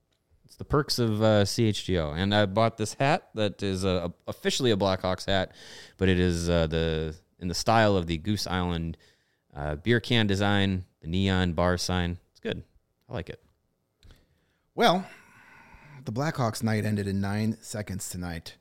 Speaker 2: It's the perks of CHGO. And I bought this hat that is officially a Blackhawks hat, but it is in the style of the Goose Island beer can design, the neon bar sign. It's good. I like it.
Speaker 3: Well, the Blackhawks night ended in 9 seconds tonight.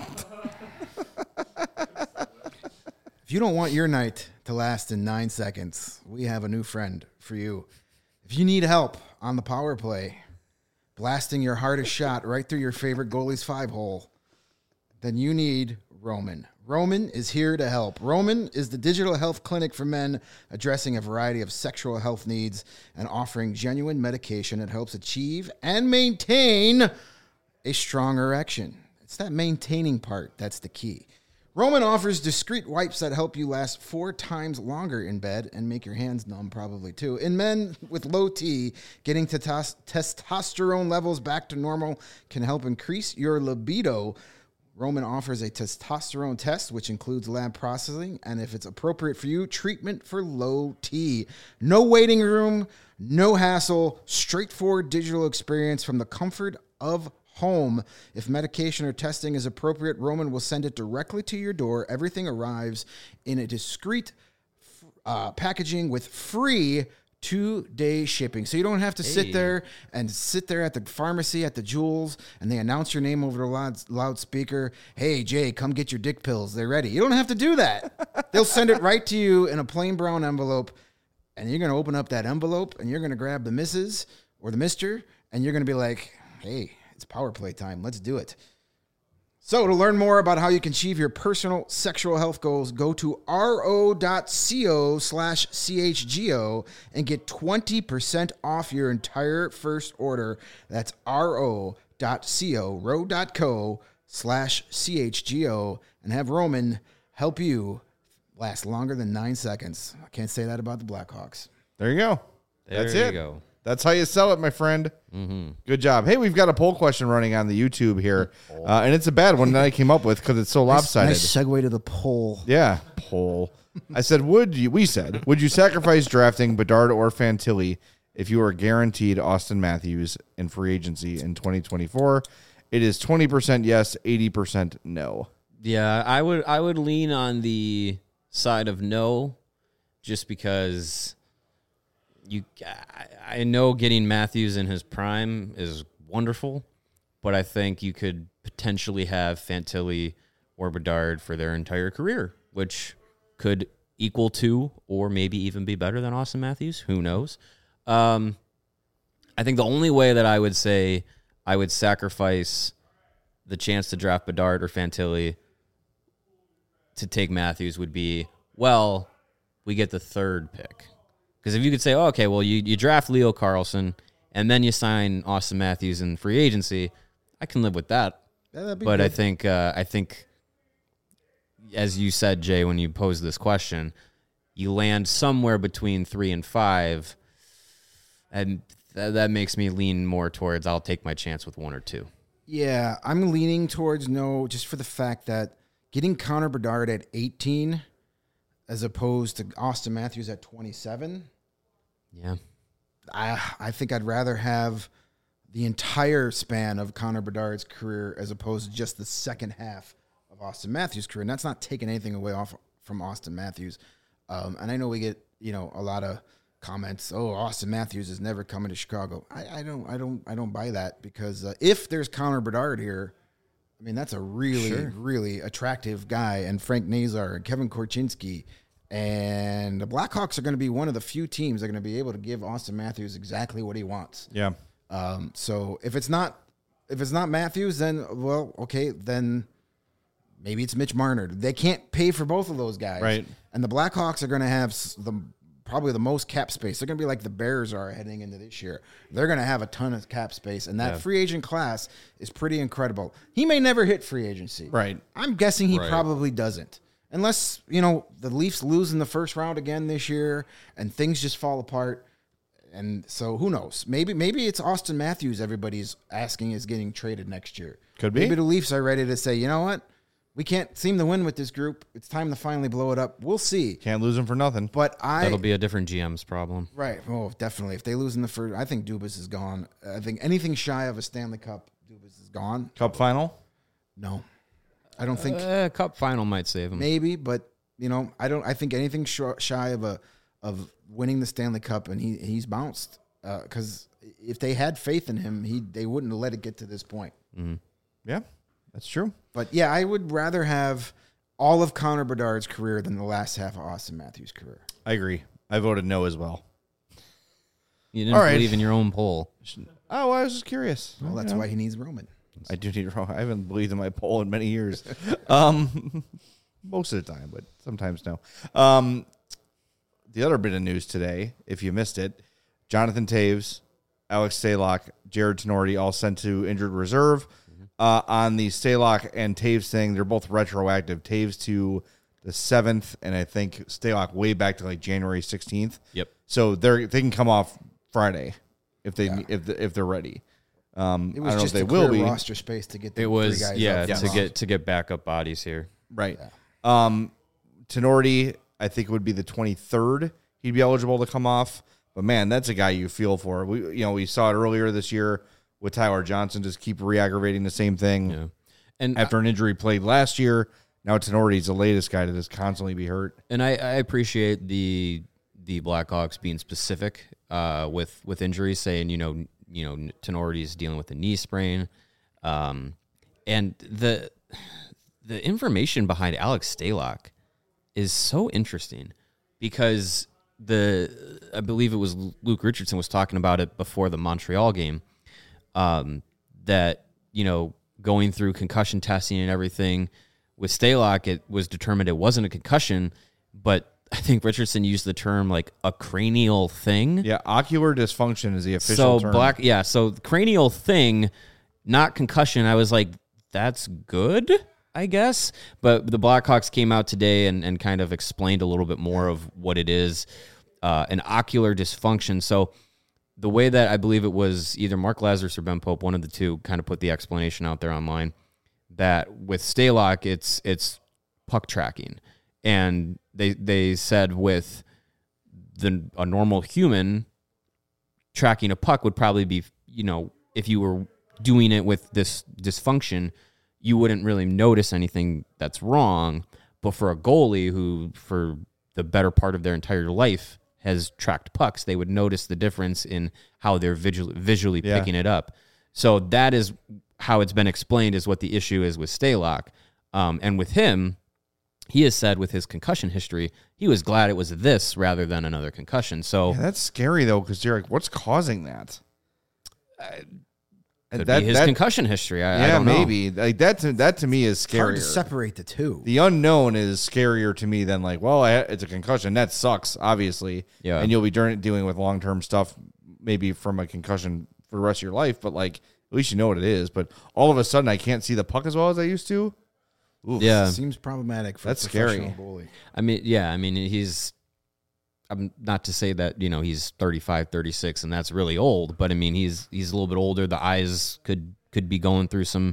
Speaker 3: If you don't want your night to last in 9 seconds, we have a new friend for you. If you need help on the power play, blasting your hardest shot right through your favorite goalie's 5-hole, then you need Roman. Roman is here to help. Roman is the digital health clinic for men, addressing a variety of sexual health needs and offering genuine medication that helps achieve and maintain a strong erection. It's that maintaining part that's the key. Roman offers discreet wipes that help you last 4 times longer in bed and make your hands numb probably too. In men with low T, getting testosterone levels back to normal can help increase your libido. Roman offers a testosterone test, which includes lab processing, and if it's appropriate for you, treatment for low T. No waiting room, no hassle, straightforward digital experience from the comfort of home. If medication or testing is appropriate, Roman will send it directly to your door. Everything arrives in a discreet packaging with free 2-day shipping. So you don't have to sit there at the pharmacy at the Jewels and they announce your name over the loudspeaker. Hey, Jay, come get your dick pills. They're ready. You don't have to do that. They'll send it right to you in a plain brown envelope, and you're going to open up that envelope and you're going to grab the missus or the mister, and you're going to be like, hey, it's power play time. Let's do it. So to learn more about how you can achieve your personal sexual health goals, go to ro.co/CHGO and get 20% off your entire first order. That's ro.co/CHGO, and have Roman help you last longer than 9 seconds. I can't say that about the Blackhawks.
Speaker 1: There you go. That's
Speaker 2: There
Speaker 1: it.
Speaker 2: you go.
Speaker 1: That's how you sell it, my friend. Mm-hmm. Good job. Hey, we've got a poll question running on the YouTube here, and it's a bad one that I came up with because it's so lopsided.
Speaker 3: Nice segue to the poll.
Speaker 1: Yeah, poll. I said, would you sacrifice drafting Bedard or Fantilli if you were guaranteed Austin Matthews in free agency in 2024? It is 20% yes, 80% no.
Speaker 2: Yeah, I would lean on the side of no, just because I know getting Matthews in his prime is wonderful, but I think you could potentially have Fantilli or Bedard for their entire career, which could equal to or maybe even be better than Austin Matthews. Who knows? I think the only way that I would say I would sacrifice the chance to draft Bedard or Fantilli to take Matthews would be, well, we get the 3rd pick. Because if you could say, oh, okay, well, you draft Leo Carlson and then you sign Austin Matthews in free agency, I can live with that.
Speaker 3: Yeah,
Speaker 2: but good. I think, as you said, Jay, when you posed this question, you land somewhere between 3 and 5, and that makes me lean more towards I'll take my chance with 1 or 2.
Speaker 3: Yeah, I'm leaning towards no, just for the fact that getting Connor Bedard at 18 as opposed to Austin Matthews at 27.
Speaker 2: Yeah.
Speaker 3: I think I'd rather have the entire span of Connor Bedard's career as opposed to just the second half of Austin Matthews' career. And that's not taking anything away from Austin Matthews. And I know we get, a lot of comments, oh, Austin Matthews is never coming to Chicago. I don't buy that, because if there's Connor Bedard here, I mean, that's a really, really attractive guy. And Frank Nazar and Kevin Korchinski. And the Blackhawks are going to be one of the few teams that are going to be able to give Austin Matthews exactly what he wants.
Speaker 1: Yeah.
Speaker 3: So if it's not Matthews, then, well, okay, then maybe it's Mitch Marner. They can't pay for both of those guys.
Speaker 1: Right.
Speaker 3: And the Blackhawks are going to have probably the most cap space. They're going to be like the Bears are heading into this year. They're going to have a ton of cap space, and that free agent class is pretty incredible. He may never hit free agency.
Speaker 1: Right.
Speaker 3: I'm guessing he probably doesn't. Unless, the Leafs lose in the first round again this year and things just fall apart. And so who knows? Maybe it's Austin Matthews everybody's asking is getting traded next year.
Speaker 1: Could be.
Speaker 3: Maybe the Leafs are ready to say, you know what? We can't seem to win with this group. It's time to finally blow it up. We'll see.
Speaker 1: Can't lose them for nothing.
Speaker 3: But
Speaker 2: That'll be a different GM's problem.
Speaker 3: Right. Oh, definitely. If they lose in the first, I think Dubas is gone. I think anything shy of a Stanley Cup, Dubas is gone.
Speaker 1: Cup final?
Speaker 3: No, I don't think.
Speaker 2: Cup final might save him.
Speaker 3: Maybe, but I think anything shy of winning the Stanley Cup, and he's bounced. Because if they had faith in him, they wouldn't have let it get to this point.
Speaker 2: Mm-hmm.
Speaker 1: Yeah, that's true.
Speaker 3: But yeah, I would rather have all of Connor Bedard's career than the last half of Austin Matthews' career.
Speaker 1: I agree. I voted no as well.
Speaker 2: You didn't
Speaker 1: All right.
Speaker 2: believe in your own poll.
Speaker 1: Oh, I was just curious.
Speaker 3: Well, that's why he needs Roman.
Speaker 1: I do need to. I haven't believed in my poll in many years. Most of the time, but sometimes no. The other bit of news today, if you missed it, Jonathan Toews, Alex Stalock, Jared Tenorti all sent to injured reserve. On the Stalock and Taves thing, they're both retroactive. Taves to the 7th, and I think Stalock way back to like January 16th.
Speaker 2: Yep.
Speaker 1: So they can come off Friday if they're ready.
Speaker 3: It
Speaker 1: I
Speaker 3: was
Speaker 1: don't know if
Speaker 3: just
Speaker 1: they
Speaker 3: to
Speaker 1: will
Speaker 3: clear
Speaker 1: be.
Speaker 3: roster space to get the
Speaker 2: It was
Speaker 3: three guys up front.
Speaker 2: to get backup bodies here.
Speaker 1: Right. Tenorti, I think it would be the 23rd. He'd be eligible to come off. But man, that's a guy you feel for. We saw it earlier this year with Tyler Johnson, just keep re-aggravating the same thing.
Speaker 2: Yeah. And
Speaker 1: After an injury played last year, now Tenorti's the latest guy to just constantly be hurt.
Speaker 2: And I appreciate the Blackhawks being specific with injuries, saying Tenorti's dealing with a knee sprain, and the information behind Alex Stalock is so interesting because I believe it was Luke Richardson was talking about it before the Montreal game, that going through concussion testing and everything with Stalock, it was determined it wasn't a concussion, but I think Richardson used the term like a cranial thing.
Speaker 1: Yeah, ocular dysfunction is the official term.
Speaker 2: So cranial thing, not concussion. I was like, that's good, I guess. But the Blackhawks came out today and kind of explained a little bit more of what it is, an ocular dysfunction. So the way that I believe it was either Mark Lazarus or Ben Pope, one of the two, kind of put the explanation out there online that with Stalock, it's puck tracking. And they said with a normal human, tracking a puck would probably be, if you were doing it with this dysfunction, you wouldn't really notice anything that's wrong. But for a goalie who, for the better part of their entire life, has tracked pucks, they would notice the difference in how they're visually picking it up. So that is how it's been explained, is what the issue is with Stalock. And with him, he has said with his concussion history, he was glad it was this rather than another concussion. So
Speaker 1: that's scary though, because you're like, what's causing that?
Speaker 2: Could be his concussion history. I don't know.
Speaker 1: Maybe like that to me is scarier.
Speaker 3: Hard to separate the two.
Speaker 1: The unknown is scarier to me than like, well, it's a concussion. That sucks, obviously.
Speaker 2: Yeah.
Speaker 1: And you'll be dealing with long-term stuff, maybe from a concussion for the rest of your life. But like, at least you know what it is. But all of a sudden, I can't see the puck as well as I used to.
Speaker 3: Oof,
Speaker 2: yeah,
Speaker 3: seems problematic for
Speaker 1: that's
Speaker 3: a professional
Speaker 1: scary.
Speaker 3: goalie.
Speaker 2: I mean, he's. I'm not to say that he's 35, 36, and that's really old. But I mean, he's a little bit older. The eyes could be going through some,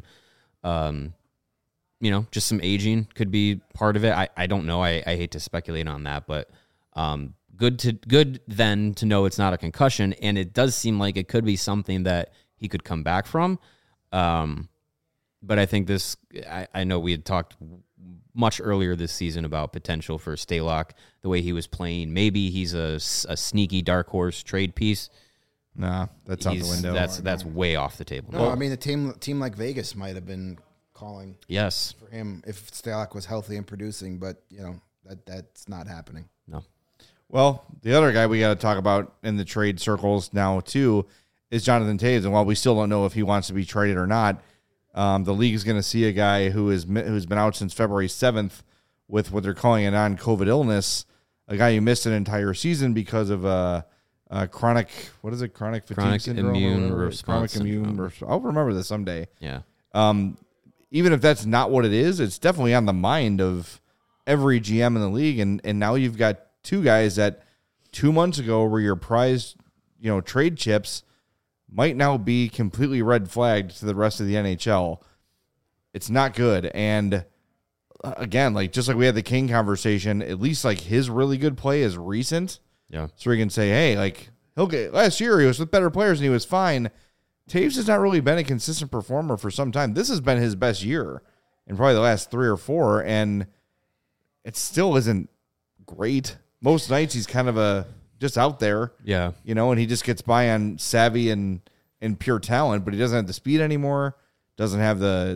Speaker 2: just some aging could be part of it. I don't know. I hate to speculate on that, but good then to know it's not a concussion, and it does seem like it could be something that he could come back from. But I think this. I know we had talked much earlier this season about potential for Stalock, the way he was playing. Maybe he's a sneaky dark horse trade piece.
Speaker 1: Nah, that's out the window.
Speaker 2: That's way off the table.
Speaker 3: No, I mean, a team like Vegas might have been calling
Speaker 2: Yes.
Speaker 3: for him if Stalock was healthy and producing, but that's not happening.
Speaker 2: No.
Speaker 1: Well, the other guy we got to talk about in the trade circles now too is Jonathan Toews, and while we still don't know if he wants to be traded or not, the league is going to see a guy who's been out since February 7th with what they're calling a non-COVID illness, a guy who missed an entire season because of chronic fatigue syndrome,
Speaker 2: immune response syndrome.
Speaker 1: I'll remember this someday.
Speaker 2: Yeah.
Speaker 1: Even if that's not what it is, it's definitely on the mind of every GM in the league. And now you've got two guys that 2 months ago were your prized, trade chips, might now be completely red flagged to the rest of the NHL. It's not good. And again, like just like we had the King conversation, at least like his really good play is recent.
Speaker 2: Yeah.
Speaker 1: So we can say, hey, like he'll get last year he was with better players and he was fine. Taves has not really been a consistent performer for some time. This has been his best year in probably the last 3 or 4, and it still isn't great. Most nights he's kind of just out there.
Speaker 2: Yeah.
Speaker 1: And he just gets by on savvy and pure talent, but he doesn't have the speed anymore. Doesn't have the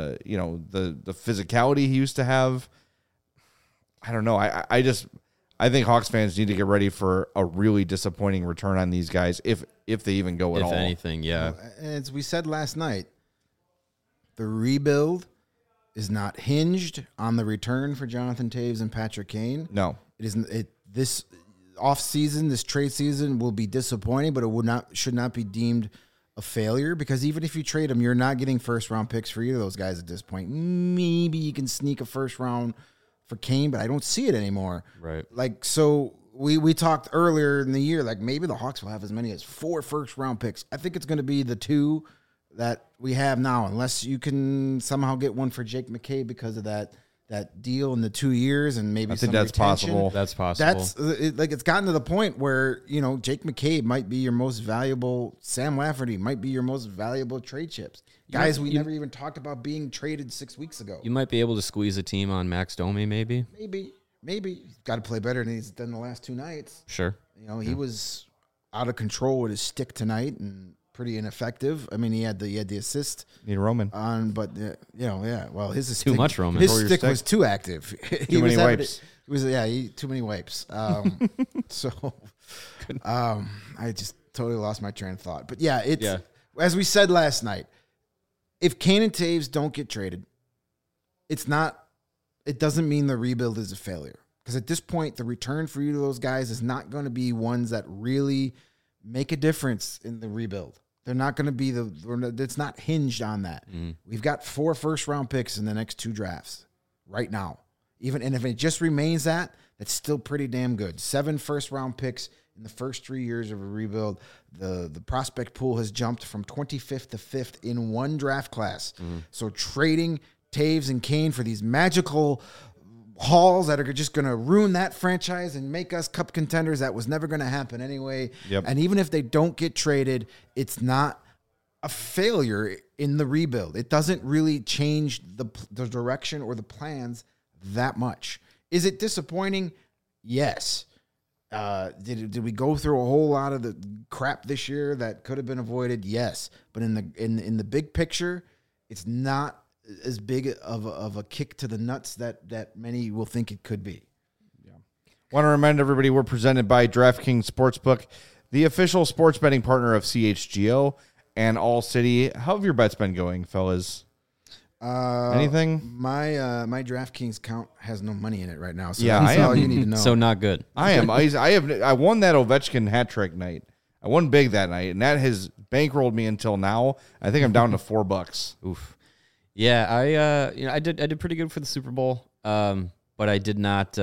Speaker 1: physicality he used to have. I don't know. I think Hawks fans need to get ready for a really disappointing return on these guys if they even go at all.
Speaker 2: If anything, yeah.
Speaker 3: As we said last night, the rebuild is not hinged on the return for Jonathan Taves and Patrick Kane.
Speaker 1: No.
Speaker 3: It isn't. This offseason, this trade season will be disappointing, but it should not be deemed a failure, because even if you trade them, you're not getting first-round picks for either of those guys at this point. Maybe you can sneak a first round for Kane, but I don't see it anymore.
Speaker 2: Right.
Speaker 3: Like, so we talked earlier in the year, like maybe the Hawks will have as many as 4 first-round picks. I think it's going to be the 2 that we have now, unless you can somehow get one for Jake McCabe because of that deal in the 2 years, and maybe
Speaker 1: I think
Speaker 3: some
Speaker 1: that's
Speaker 3: retention.
Speaker 1: possible.
Speaker 2: That's possible.
Speaker 3: That's it's gotten to the point where Jake McCabe might be your most valuable. Sam Lafferty might be your most valuable trade chips. Guys, we never even talked about being traded 6 weeks ago.
Speaker 2: You might be able to squeeze a team on Max Domi, maybe.
Speaker 3: Maybe he's got to play better than he's done the last 2 nights.
Speaker 2: Sure.
Speaker 3: He was out of control with his stick tonight and pretty ineffective. I mean, he had the assist
Speaker 1: Need Roman
Speaker 3: on, but well, his
Speaker 2: Too much Roman.
Speaker 3: His
Speaker 1: Throw your
Speaker 3: stick
Speaker 1: stick.
Speaker 3: was too active.
Speaker 1: Too many wipes.
Speaker 3: Too many wipes. So, I just totally lost my train of thought. But as we said last night, if Kane and Taves don't get traded, it doesn't mean the rebuild is a failure. Because at this point, the return for you to those guys is not going to be ones that really make a difference in the rebuild. They're not going to be it's not hinged on that. We've got 4 first-round picks in the next 2 drafts right now. And if it just remains that's still pretty damn good. 7 first-round picks in the first 3 years of a rebuild. The prospect pool has jumped from 25th to 5th in one draft class. So trading Taves and Kane for these magical hauls that are just going to ruin that franchise and make us cup contenders, that was never going to happen anyway.
Speaker 1: Yep.
Speaker 3: And even if they don't get traded, it's not a failure in the rebuild. It doesn't really change the direction or the plans that much. Is it disappointing? Yes. Did we go through a whole lot of the crap this year that could have been avoided? Yes. But in the big picture, it's not as big of a kick to the nuts that many will think it could be.
Speaker 1: Want to remind everybody we're presented by DraftKings Sportsbook, the official sports betting partner of CHGO and All City. How have your bets been going, fellas? Anything?
Speaker 3: My DraftKings account has no money in it right now, so
Speaker 1: Yeah,
Speaker 3: that's
Speaker 1: I
Speaker 3: all
Speaker 1: am.
Speaker 3: you need to know.
Speaker 2: So not good.
Speaker 1: I am. I won that Ovechkin hat trick night. I won big that night, and that has bankrolled me until now. I think I'm down to $4.
Speaker 2: Oof. Yeah, I did pretty good for the Super Bowl, but I did not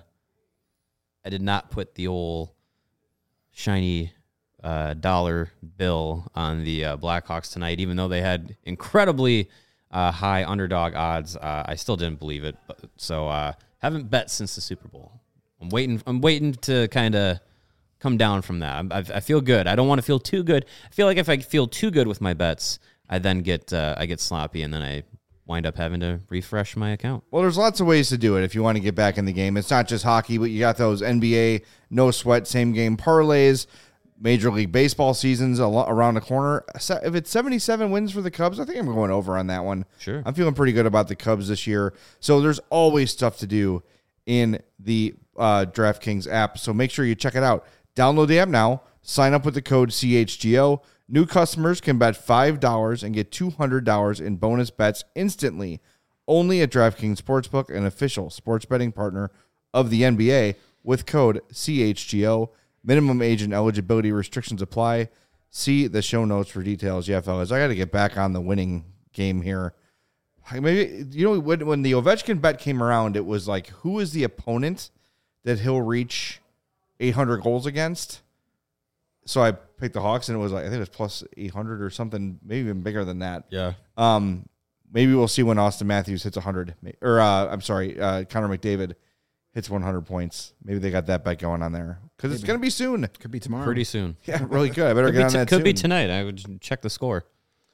Speaker 2: put the old shiny dollar bill on the Blackhawks tonight, even though they had incredibly high underdog odds. I still didn't believe it, so haven't bet since the Super Bowl. I'm waiting to kind of come down from that. I feel good. I don't want to feel too good. I feel like if I feel too good with my bets, I then get sloppy, and then I wind up having to refresh my account.
Speaker 1: Well, there's lots of ways to do it if you want to get back in the game. It's not just hockey, but you got those NBA no sweat same game parlays. Major League Baseball season's around the corner. If it's 77 wins for the Cubs, I think I'm going over on that one.
Speaker 2: Sure.
Speaker 1: I'm feeling pretty good about the Cubs this year. So there's always stuff to do in the DraftKings app. So make sure you check it out. Download the app now. Sign up with the code CHGO. New customers can bet $5 and get $200 in bonus bets instantly. Only at DraftKings Sportsbook, an official sports betting partner of the NBA, with code CHGO. Minimum age and eligibility restrictions apply. See the show notes for details. Yeah, fellas, I got to get back on the winning game here. Maybe when the Ovechkin bet came around, it was like, who is the opponent that he'll reach 800 goals against? So I picked the Hawks, and it was like, I think it was plus 800 or something, maybe even bigger than that.
Speaker 2: Yeah.
Speaker 1: maybe we'll see when Austin Matthews hits 100. Or, Connor McDavid hits 100 points. Maybe they got that bet going on there. Because it's going to be soon.
Speaker 3: Could be tomorrow.
Speaker 2: Pretty soon.
Speaker 1: Yeah, really good. I better get on that
Speaker 2: Could
Speaker 1: soon.
Speaker 2: be tonight. I would check the score.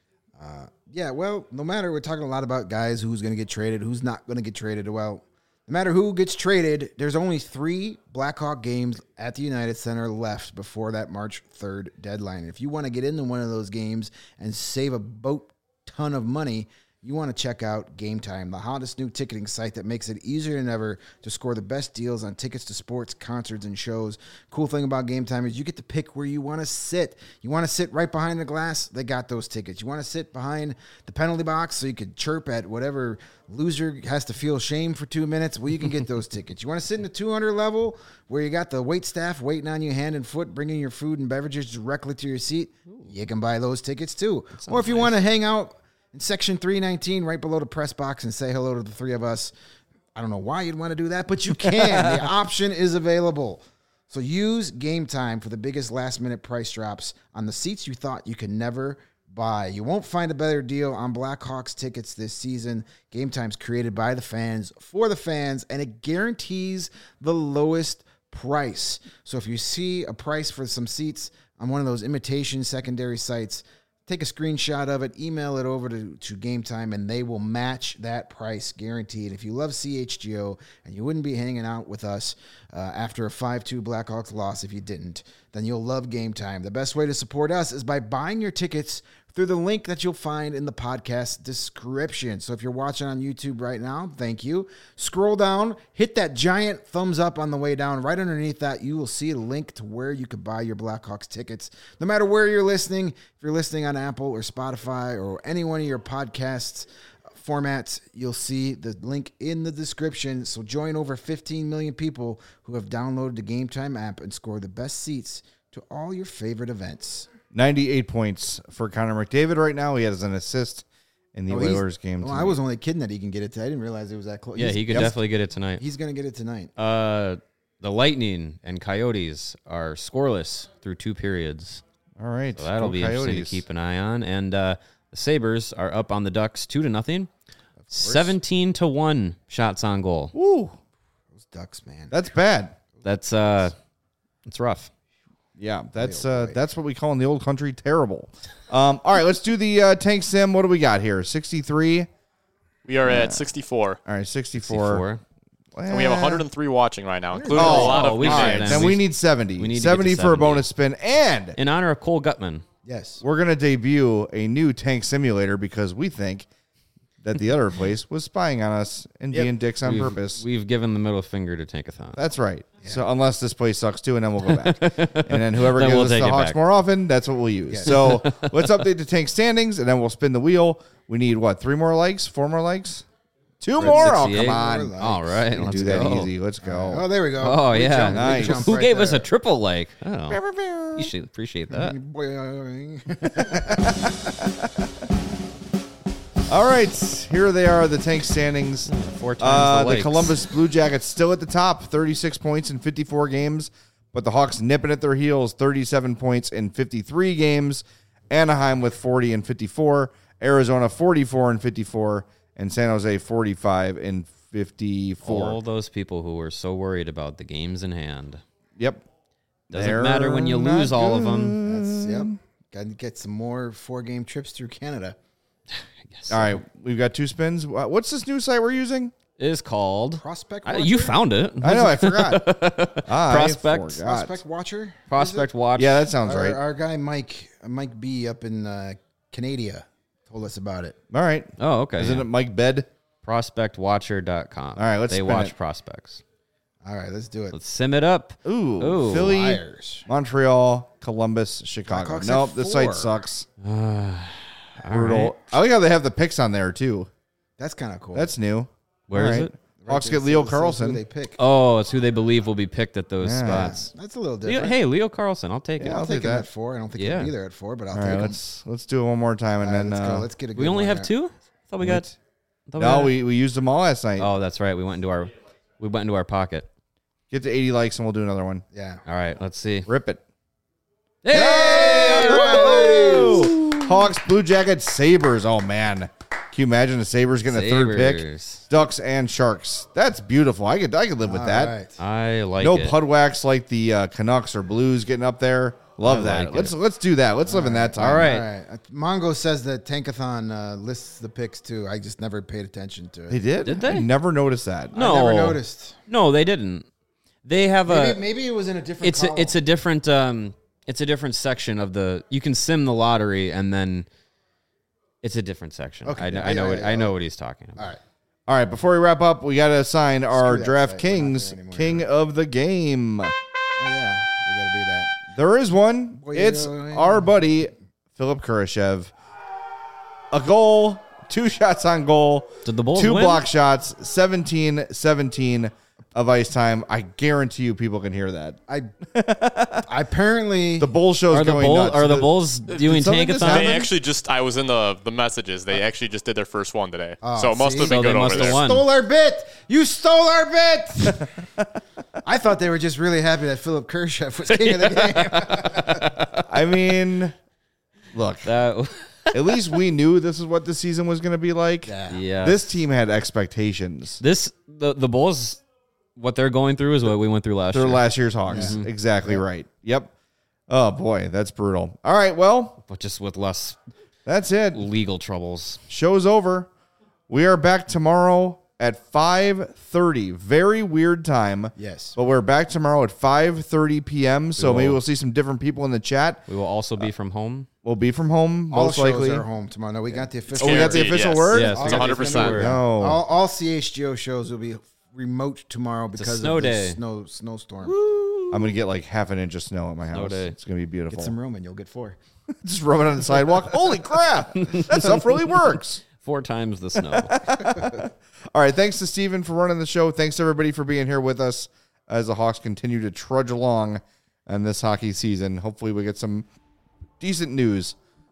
Speaker 3: Yeah, well, no matter, we're talking a lot about guys who's going to get traded, who's not going to get traded. Well, no matter who gets traded, there's only 3 Blackhawk games at the United Center left before that March 3rd deadline. If you want to get into one of those games and save a boat ton of money, you want to check out Game Time, the hottest new ticketing site that makes it easier than ever to score the best deals on tickets to sports, concerts, and shows. Cool thing about Game Time is you get to pick where you want to sit. You want to sit right behind the glass? They got those tickets. You want to sit behind the penalty box so you could chirp at whatever loser has to feel shame for 2 minutes? Well, you can get those tickets. You want to sit in the 200 level where you got the wait staff waiting on you hand and foot, bringing your food and beverages directly to your seat? You can buy those tickets too. Or if you want to hang out in section 319, right below the press box, and say hello to the 3 of us. I don't know why you'd want to do that, but you can. The option is available. So use Game Time for the biggest last-minute price drops on the seats you thought you could never buy. You won't find a better deal on Blackhawks tickets this season. Game Time's created by the fans, for the fans, and it guarantees the lowest price. So if you see a price for some seats on one of those imitation secondary sites, take a screenshot of it, email it over to Game Time, and they will match that price, guaranteed. If you love CHGO and you wouldn't be hanging out with us after a 5-2 Blackhawks loss if you didn't, then you'll love Game Time. The best way to support us is by buying your tickets through the link that you'll find in the podcast description. So if you're watching on YouTube right now, thank you. Scroll down, hit that giant thumbs up on the way down. Right underneath that, you will see a link to where you could buy your Blackhawks tickets. No matter where you're listening, if you're listening on Apple or Spotify or any one of your podcasts formats, you'll see the link in the description. So join over 15 million people who have downloaded the Game Time app and score the best seats to all your favorite events.
Speaker 1: 98 points for Connor McDavid right now. He has an assist in the Oilers game.
Speaker 3: Well, I was only kidding that he can get it. I didn't realize it was that close.
Speaker 2: Yeah, he could definitely get it tonight.
Speaker 3: He's going to get it tonight.
Speaker 2: The Lightning and Coyotes are scoreless through 2 periods.
Speaker 1: All right.
Speaker 2: So that'll be interesting to keep an eye on. And the Sabres are up on the Ducks 2-0. 17-1 shots on goal.
Speaker 1: Woo.
Speaker 3: Those Ducks, man.
Speaker 1: That's bad.
Speaker 2: That's it's rough.
Speaker 1: Yeah, that's what we call in the old country terrible. All right, let's do the tank sim. What do we got here? 63.
Speaker 4: We are at 64.
Speaker 1: All right, 64.
Speaker 4: And we have 103 watching right now, including a
Speaker 1: Oh,
Speaker 4: lot of
Speaker 2: we
Speaker 4: new
Speaker 2: should
Speaker 4: names.
Speaker 1: Then we need 70.
Speaker 2: We need to
Speaker 1: 70
Speaker 2: get to
Speaker 1: for a
Speaker 2: 70.
Speaker 1: bonus spin. And
Speaker 2: In honor of Cole Gutman.
Speaker 3: Yes.
Speaker 1: we're going to debut a new tank simulator because we think that the other place was spying on us and being dicks on purpose.
Speaker 2: We've given the middle finger to Tankathon.
Speaker 1: That's right. Yeah. So unless this place sucks too, and then we'll go back. And then whoever
Speaker 2: Then
Speaker 1: gives
Speaker 2: we'll
Speaker 1: us
Speaker 2: take
Speaker 1: the
Speaker 2: it
Speaker 1: Hawks
Speaker 2: back.
Speaker 1: more often, that's what we'll use.
Speaker 3: Yes.
Speaker 1: So let's update the tank standings, and then we'll spin the wheel. We need, 3 more likes? 4 more likes? 2 more? Oh,
Speaker 2: 68.
Speaker 1: come on.
Speaker 2: All right,
Speaker 1: We can
Speaker 2: let's
Speaker 1: do that
Speaker 2: go.
Speaker 1: easy. Let's go.
Speaker 3: Oh, there we go.
Speaker 2: Oh,
Speaker 3: Big
Speaker 2: yeah.
Speaker 3: jump, big
Speaker 1: Nice.
Speaker 3: jump
Speaker 2: Who
Speaker 3: right
Speaker 2: gave us
Speaker 3: there.
Speaker 2: a triple like? Oh, you should appreciate that.
Speaker 1: All right. Here they are, the tank standings.
Speaker 2: 4 times the
Speaker 1: The
Speaker 2: likes.
Speaker 1: Columbus Blue Jackets still at the top, 36 points in 54 games. But the Hawks nipping at their heels, 37 points in 53 games. Anaheim with 40 and 54. Arizona 44 and 54. And San Jose 45 and 54.
Speaker 2: All those people who were so worried about the games in hand.
Speaker 1: Yep.
Speaker 2: Doesn't matter when you lose all of them.
Speaker 3: That's, got to get some more 4-game trips through Canada.
Speaker 1: All right. We've got 2 spins. What's this new site we're using?
Speaker 2: It is called
Speaker 3: Prospect
Speaker 2: You
Speaker 3: Watcher?
Speaker 2: found it.
Speaker 1: I know. I forgot.
Speaker 2: Prospect.
Speaker 3: Prospect Watcher?
Speaker 2: Prospect Watch.
Speaker 1: Yeah, that sounds
Speaker 3: Our,
Speaker 1: right.
Speaker 3: our guy Mike B up in Canada told us about it.
Speaker 1: All right.
Speaker 2: Oh, okay.
Speaker 1: Isn't
Speaker 2: yeah.
Speaker 1: it Mike Bed?
Speaker 2: Prospectwatcher.com.
Speaker 1: All right, let's
Speaker 2: They
Speaker 1: spin
Speaker 2: watch
Speaker 1: it.
Speaker 2: prospects.
Speaker 3: All right, let's do it.
Speaker 2: Let's sim it up.
Speaker 1: Ooh. Philly,
Speaker 3: Flyers.
Speaker 1: Montreal, Columbus, Chicago.
Speaker 3: Blackhawks
Speaker 1: Nope,
Speaker 3: at
Speaker 1: the
Speaker 3: 4.
Speaker 1: site sucks.
Speaker 2: All
Speaker 1: Brutal.
Speaker 2: right.
Speaker 1: I like how they have the picks on there, too.
Speaker 3: That's kind of cool.
Speaker 1: That's new.
Speaker 2: Where
Speaker 1: All
Speaker 2: is
Speaker 1: right.
Speaker 2: it?
Speaker 1: Hawks
Speaker 3: there.
Speaker 1: get Leo
Speaker 3: This is who
Speaker 1: Carlson.
Speaker 3: they pick.
Speaker 2: Oh, it's who they believe will be picked at those
Speaker 1: Yeah.
Speaker 2: spots.
Speaker 3: That's a little
Speaker 2: Leo,
Speaker 3: different.
Speaker 2: hey, Leo Carlson. I'll take
Speaker 1: Yeah,
Speaker 2: it.
Speaker 1: I'll
Speaker 3: I'll
Speaker 1: take
Speaker 3: take him
Speaker 1: that.
Speaker 3: at 4. I don't think
Speaker 2: Yeah.
Speaker 3: he'll be there at 4, but I'll
Speaker 1: All
Speaker 3: take
Speaker 1: right,
Speaker 3: him.
Speaker 1: let's do it one more time, and
Speaker 3: All right,
Speaker 1: then
Speaker 3: let's go. Let's get a good
Speaker 2: We only
Speaker 3: one
Speaker 2: have
Speaker 3: there.
Speaker 2: 2? I thought we got.
Speaker 1: no, we used them all last night.
Speaker 2: Oh, that's right. We went into our pocket.
Speaker 1: Get to 80 likes, and we'll do another one.
Speaker 3: Yeah.
Speaker 2: All right, let's see.
Speaker 1: Rip it.
Speaker 2: Hey!
Speaker 1: Woo! Hawks, Blue Jackets, Sabres. Oh man, you imagine the Sabres getting a third pick?
Speaker 2: Sabres.
Speaker 1: Ducks and Sharks. That's beautiful. I could live with that.
Speaker 3: Right.
Speaker 2: I like
Speaker 1: No
Speaker 2: it.
Speaker 1: Pudwax like the Canucks or Blues getting up there. Love that.
Speaker 2: like
Speaker 1: Let's do that. Let's live in that time.
Speaker 2: All right.
Speaker 3: All right. Mongo says that Tankathon lists the picks too. I just never paid attention to it.
Speaker 1: They did?
Speaker 2: Did they?
Speaker 1: I never noticed that.
Speaker 2: No,
Speaker 3: I never noticed.
Speaker 2: No, they didn't. They have
Speaker 3: Maybe it was in a different.
Speaker 2: it's a different it's a different section of the. You can sim the lottery and then it's a different section.
Speaker 3: Okay.
Speaker 2: I know what he's talking about.
Speaker 3: All right.
Speaker 1: All right, before we wrap up, we got to assign our
Speaker 3: that site. We're not
Speaker 1: DraftKings
Speaker 3: there anymore.
Speaker 1: King of the Game.
Speaker 3: Oh yeah, we got to do that.
Speaker 1: There is one.
Speaker 3: Boy,
Speaker 1: It's
Speaker 3: yeah.
Speaker 1: our buddy, Philip Kurashev. A goal, 2 shots on goal,
Speaker 2: Did the Bulls
Speaker 1: 2
Speaker 2: win?
Speaker 1: block shots, 17-17 of ice time. I guarantee you people can hear that.
Speaker 3: I apparently
Speaker 1: The Bull show's
Speaker 2: Are the
Speaker 1: going
Speaker 2: Bulls
Speaker 1: nuts.
Speaker 2: are the Bulls doing
Speaker 1: something just
Speaker 2: tankathon?
Speaker 1: happen?
Speaker 4: They actually I was in the messages. They actually just did their first one today.
Speaker 3: Oh,
Speaker 4: So it must
Speaker 3: see?
Speaker 4: have been
Speaker 2: So they
Speaker 4: good over
Speaker 2: must have
Speaker 4: there.
Speaker 2: won.
Speaker 3: stole our bit. You stole our bit. I thought they were just really happy that Philip Kurashev was king of the game.
Speaker 1: I mean, look,
Speaker 2: That-
Speaker 1: at least we knew this is what the season was going to be like.
Speaker 2: yeah.
Speaker 1: This team had expectations.
Speaker 2: The Bulls, what they're going through is what we went through last
Speaker 1: They're
Speaker 2: year,
Speaker 1: last year's Hawks. Exactly right. Yep. Oh, boy, that's brutal. All right, well,
Speaker 2: but just with less
Speaker 1: that's it.
Speaker 2: legal troubles.
Speaker 1: Show's over. We are back tomorrow at 5:30. Very weird time.
Speaker 3: Yes.
Speaker 1: But we're back tomorrow at 5:30 p.m. So
Speaker 2: will.
Speaker 1: maybe we'll see some different people in the chat.
Speaker 2: We will also be from home.
Speaker 1: We'll be from home,
Speaker 3: All
Speaker 1: most
Speaker 3: shows
Speaker 1: likely.
Speaker 3: are home tomorrow. No, we got the official.
Speaker 1: Oh, we got the
Speaker 4: Guaranteed,
Speaker 1: official
Speaker 4: yes.
Speaker 1: word?
Speaker 2: Yes,
Speaker 3: All
Speaker 2: we
Speaker 4: It's
Speaker 2: got the
Speaker 4: 100%.
Speaker 2: official word.
Speaker 1: No.
Speaker 3: All CHGO shows will be remote tomorrow because
Speaker 2: snow
Speaker 3: of the
Speaker 2: day.
Speaker 3: snowstorm.
Speaker 1: I'm going to get like half an inch of snow at my house.
Speaker 2: day.
Speaker 1: It's going to be beautiful.
Speaker 3: Get some room and you'll get 4.
Speaker 1: Just rub it on the sidewalk. Holy crap. That stuff really works.
Speaker 2: 4 times the snow.
Speaker 1: All right. Thanks to Steven for running the show. Thanks to everybody for being here with us as the Hawks continue to trudge along in this hockey season. Hopefully we get some decent news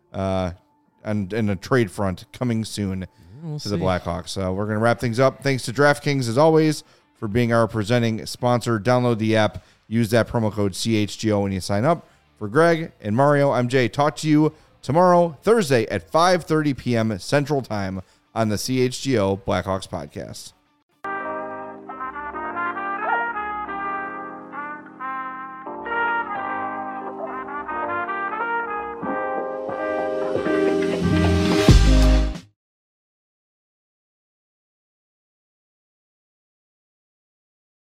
Speaker 1: and a trade front coming soon to the Blackhawks. We're going to wrap things up. Thanks to DraftKings, as always, for being our presenting sponsor. Download the app. Use that promo code CHGO when you sign up. For Greg and Mario, I'm Jay. Talk to you tomorrow, Thursday at 5:30 p.m. Central Time on the CHGO Blackhawks podcast.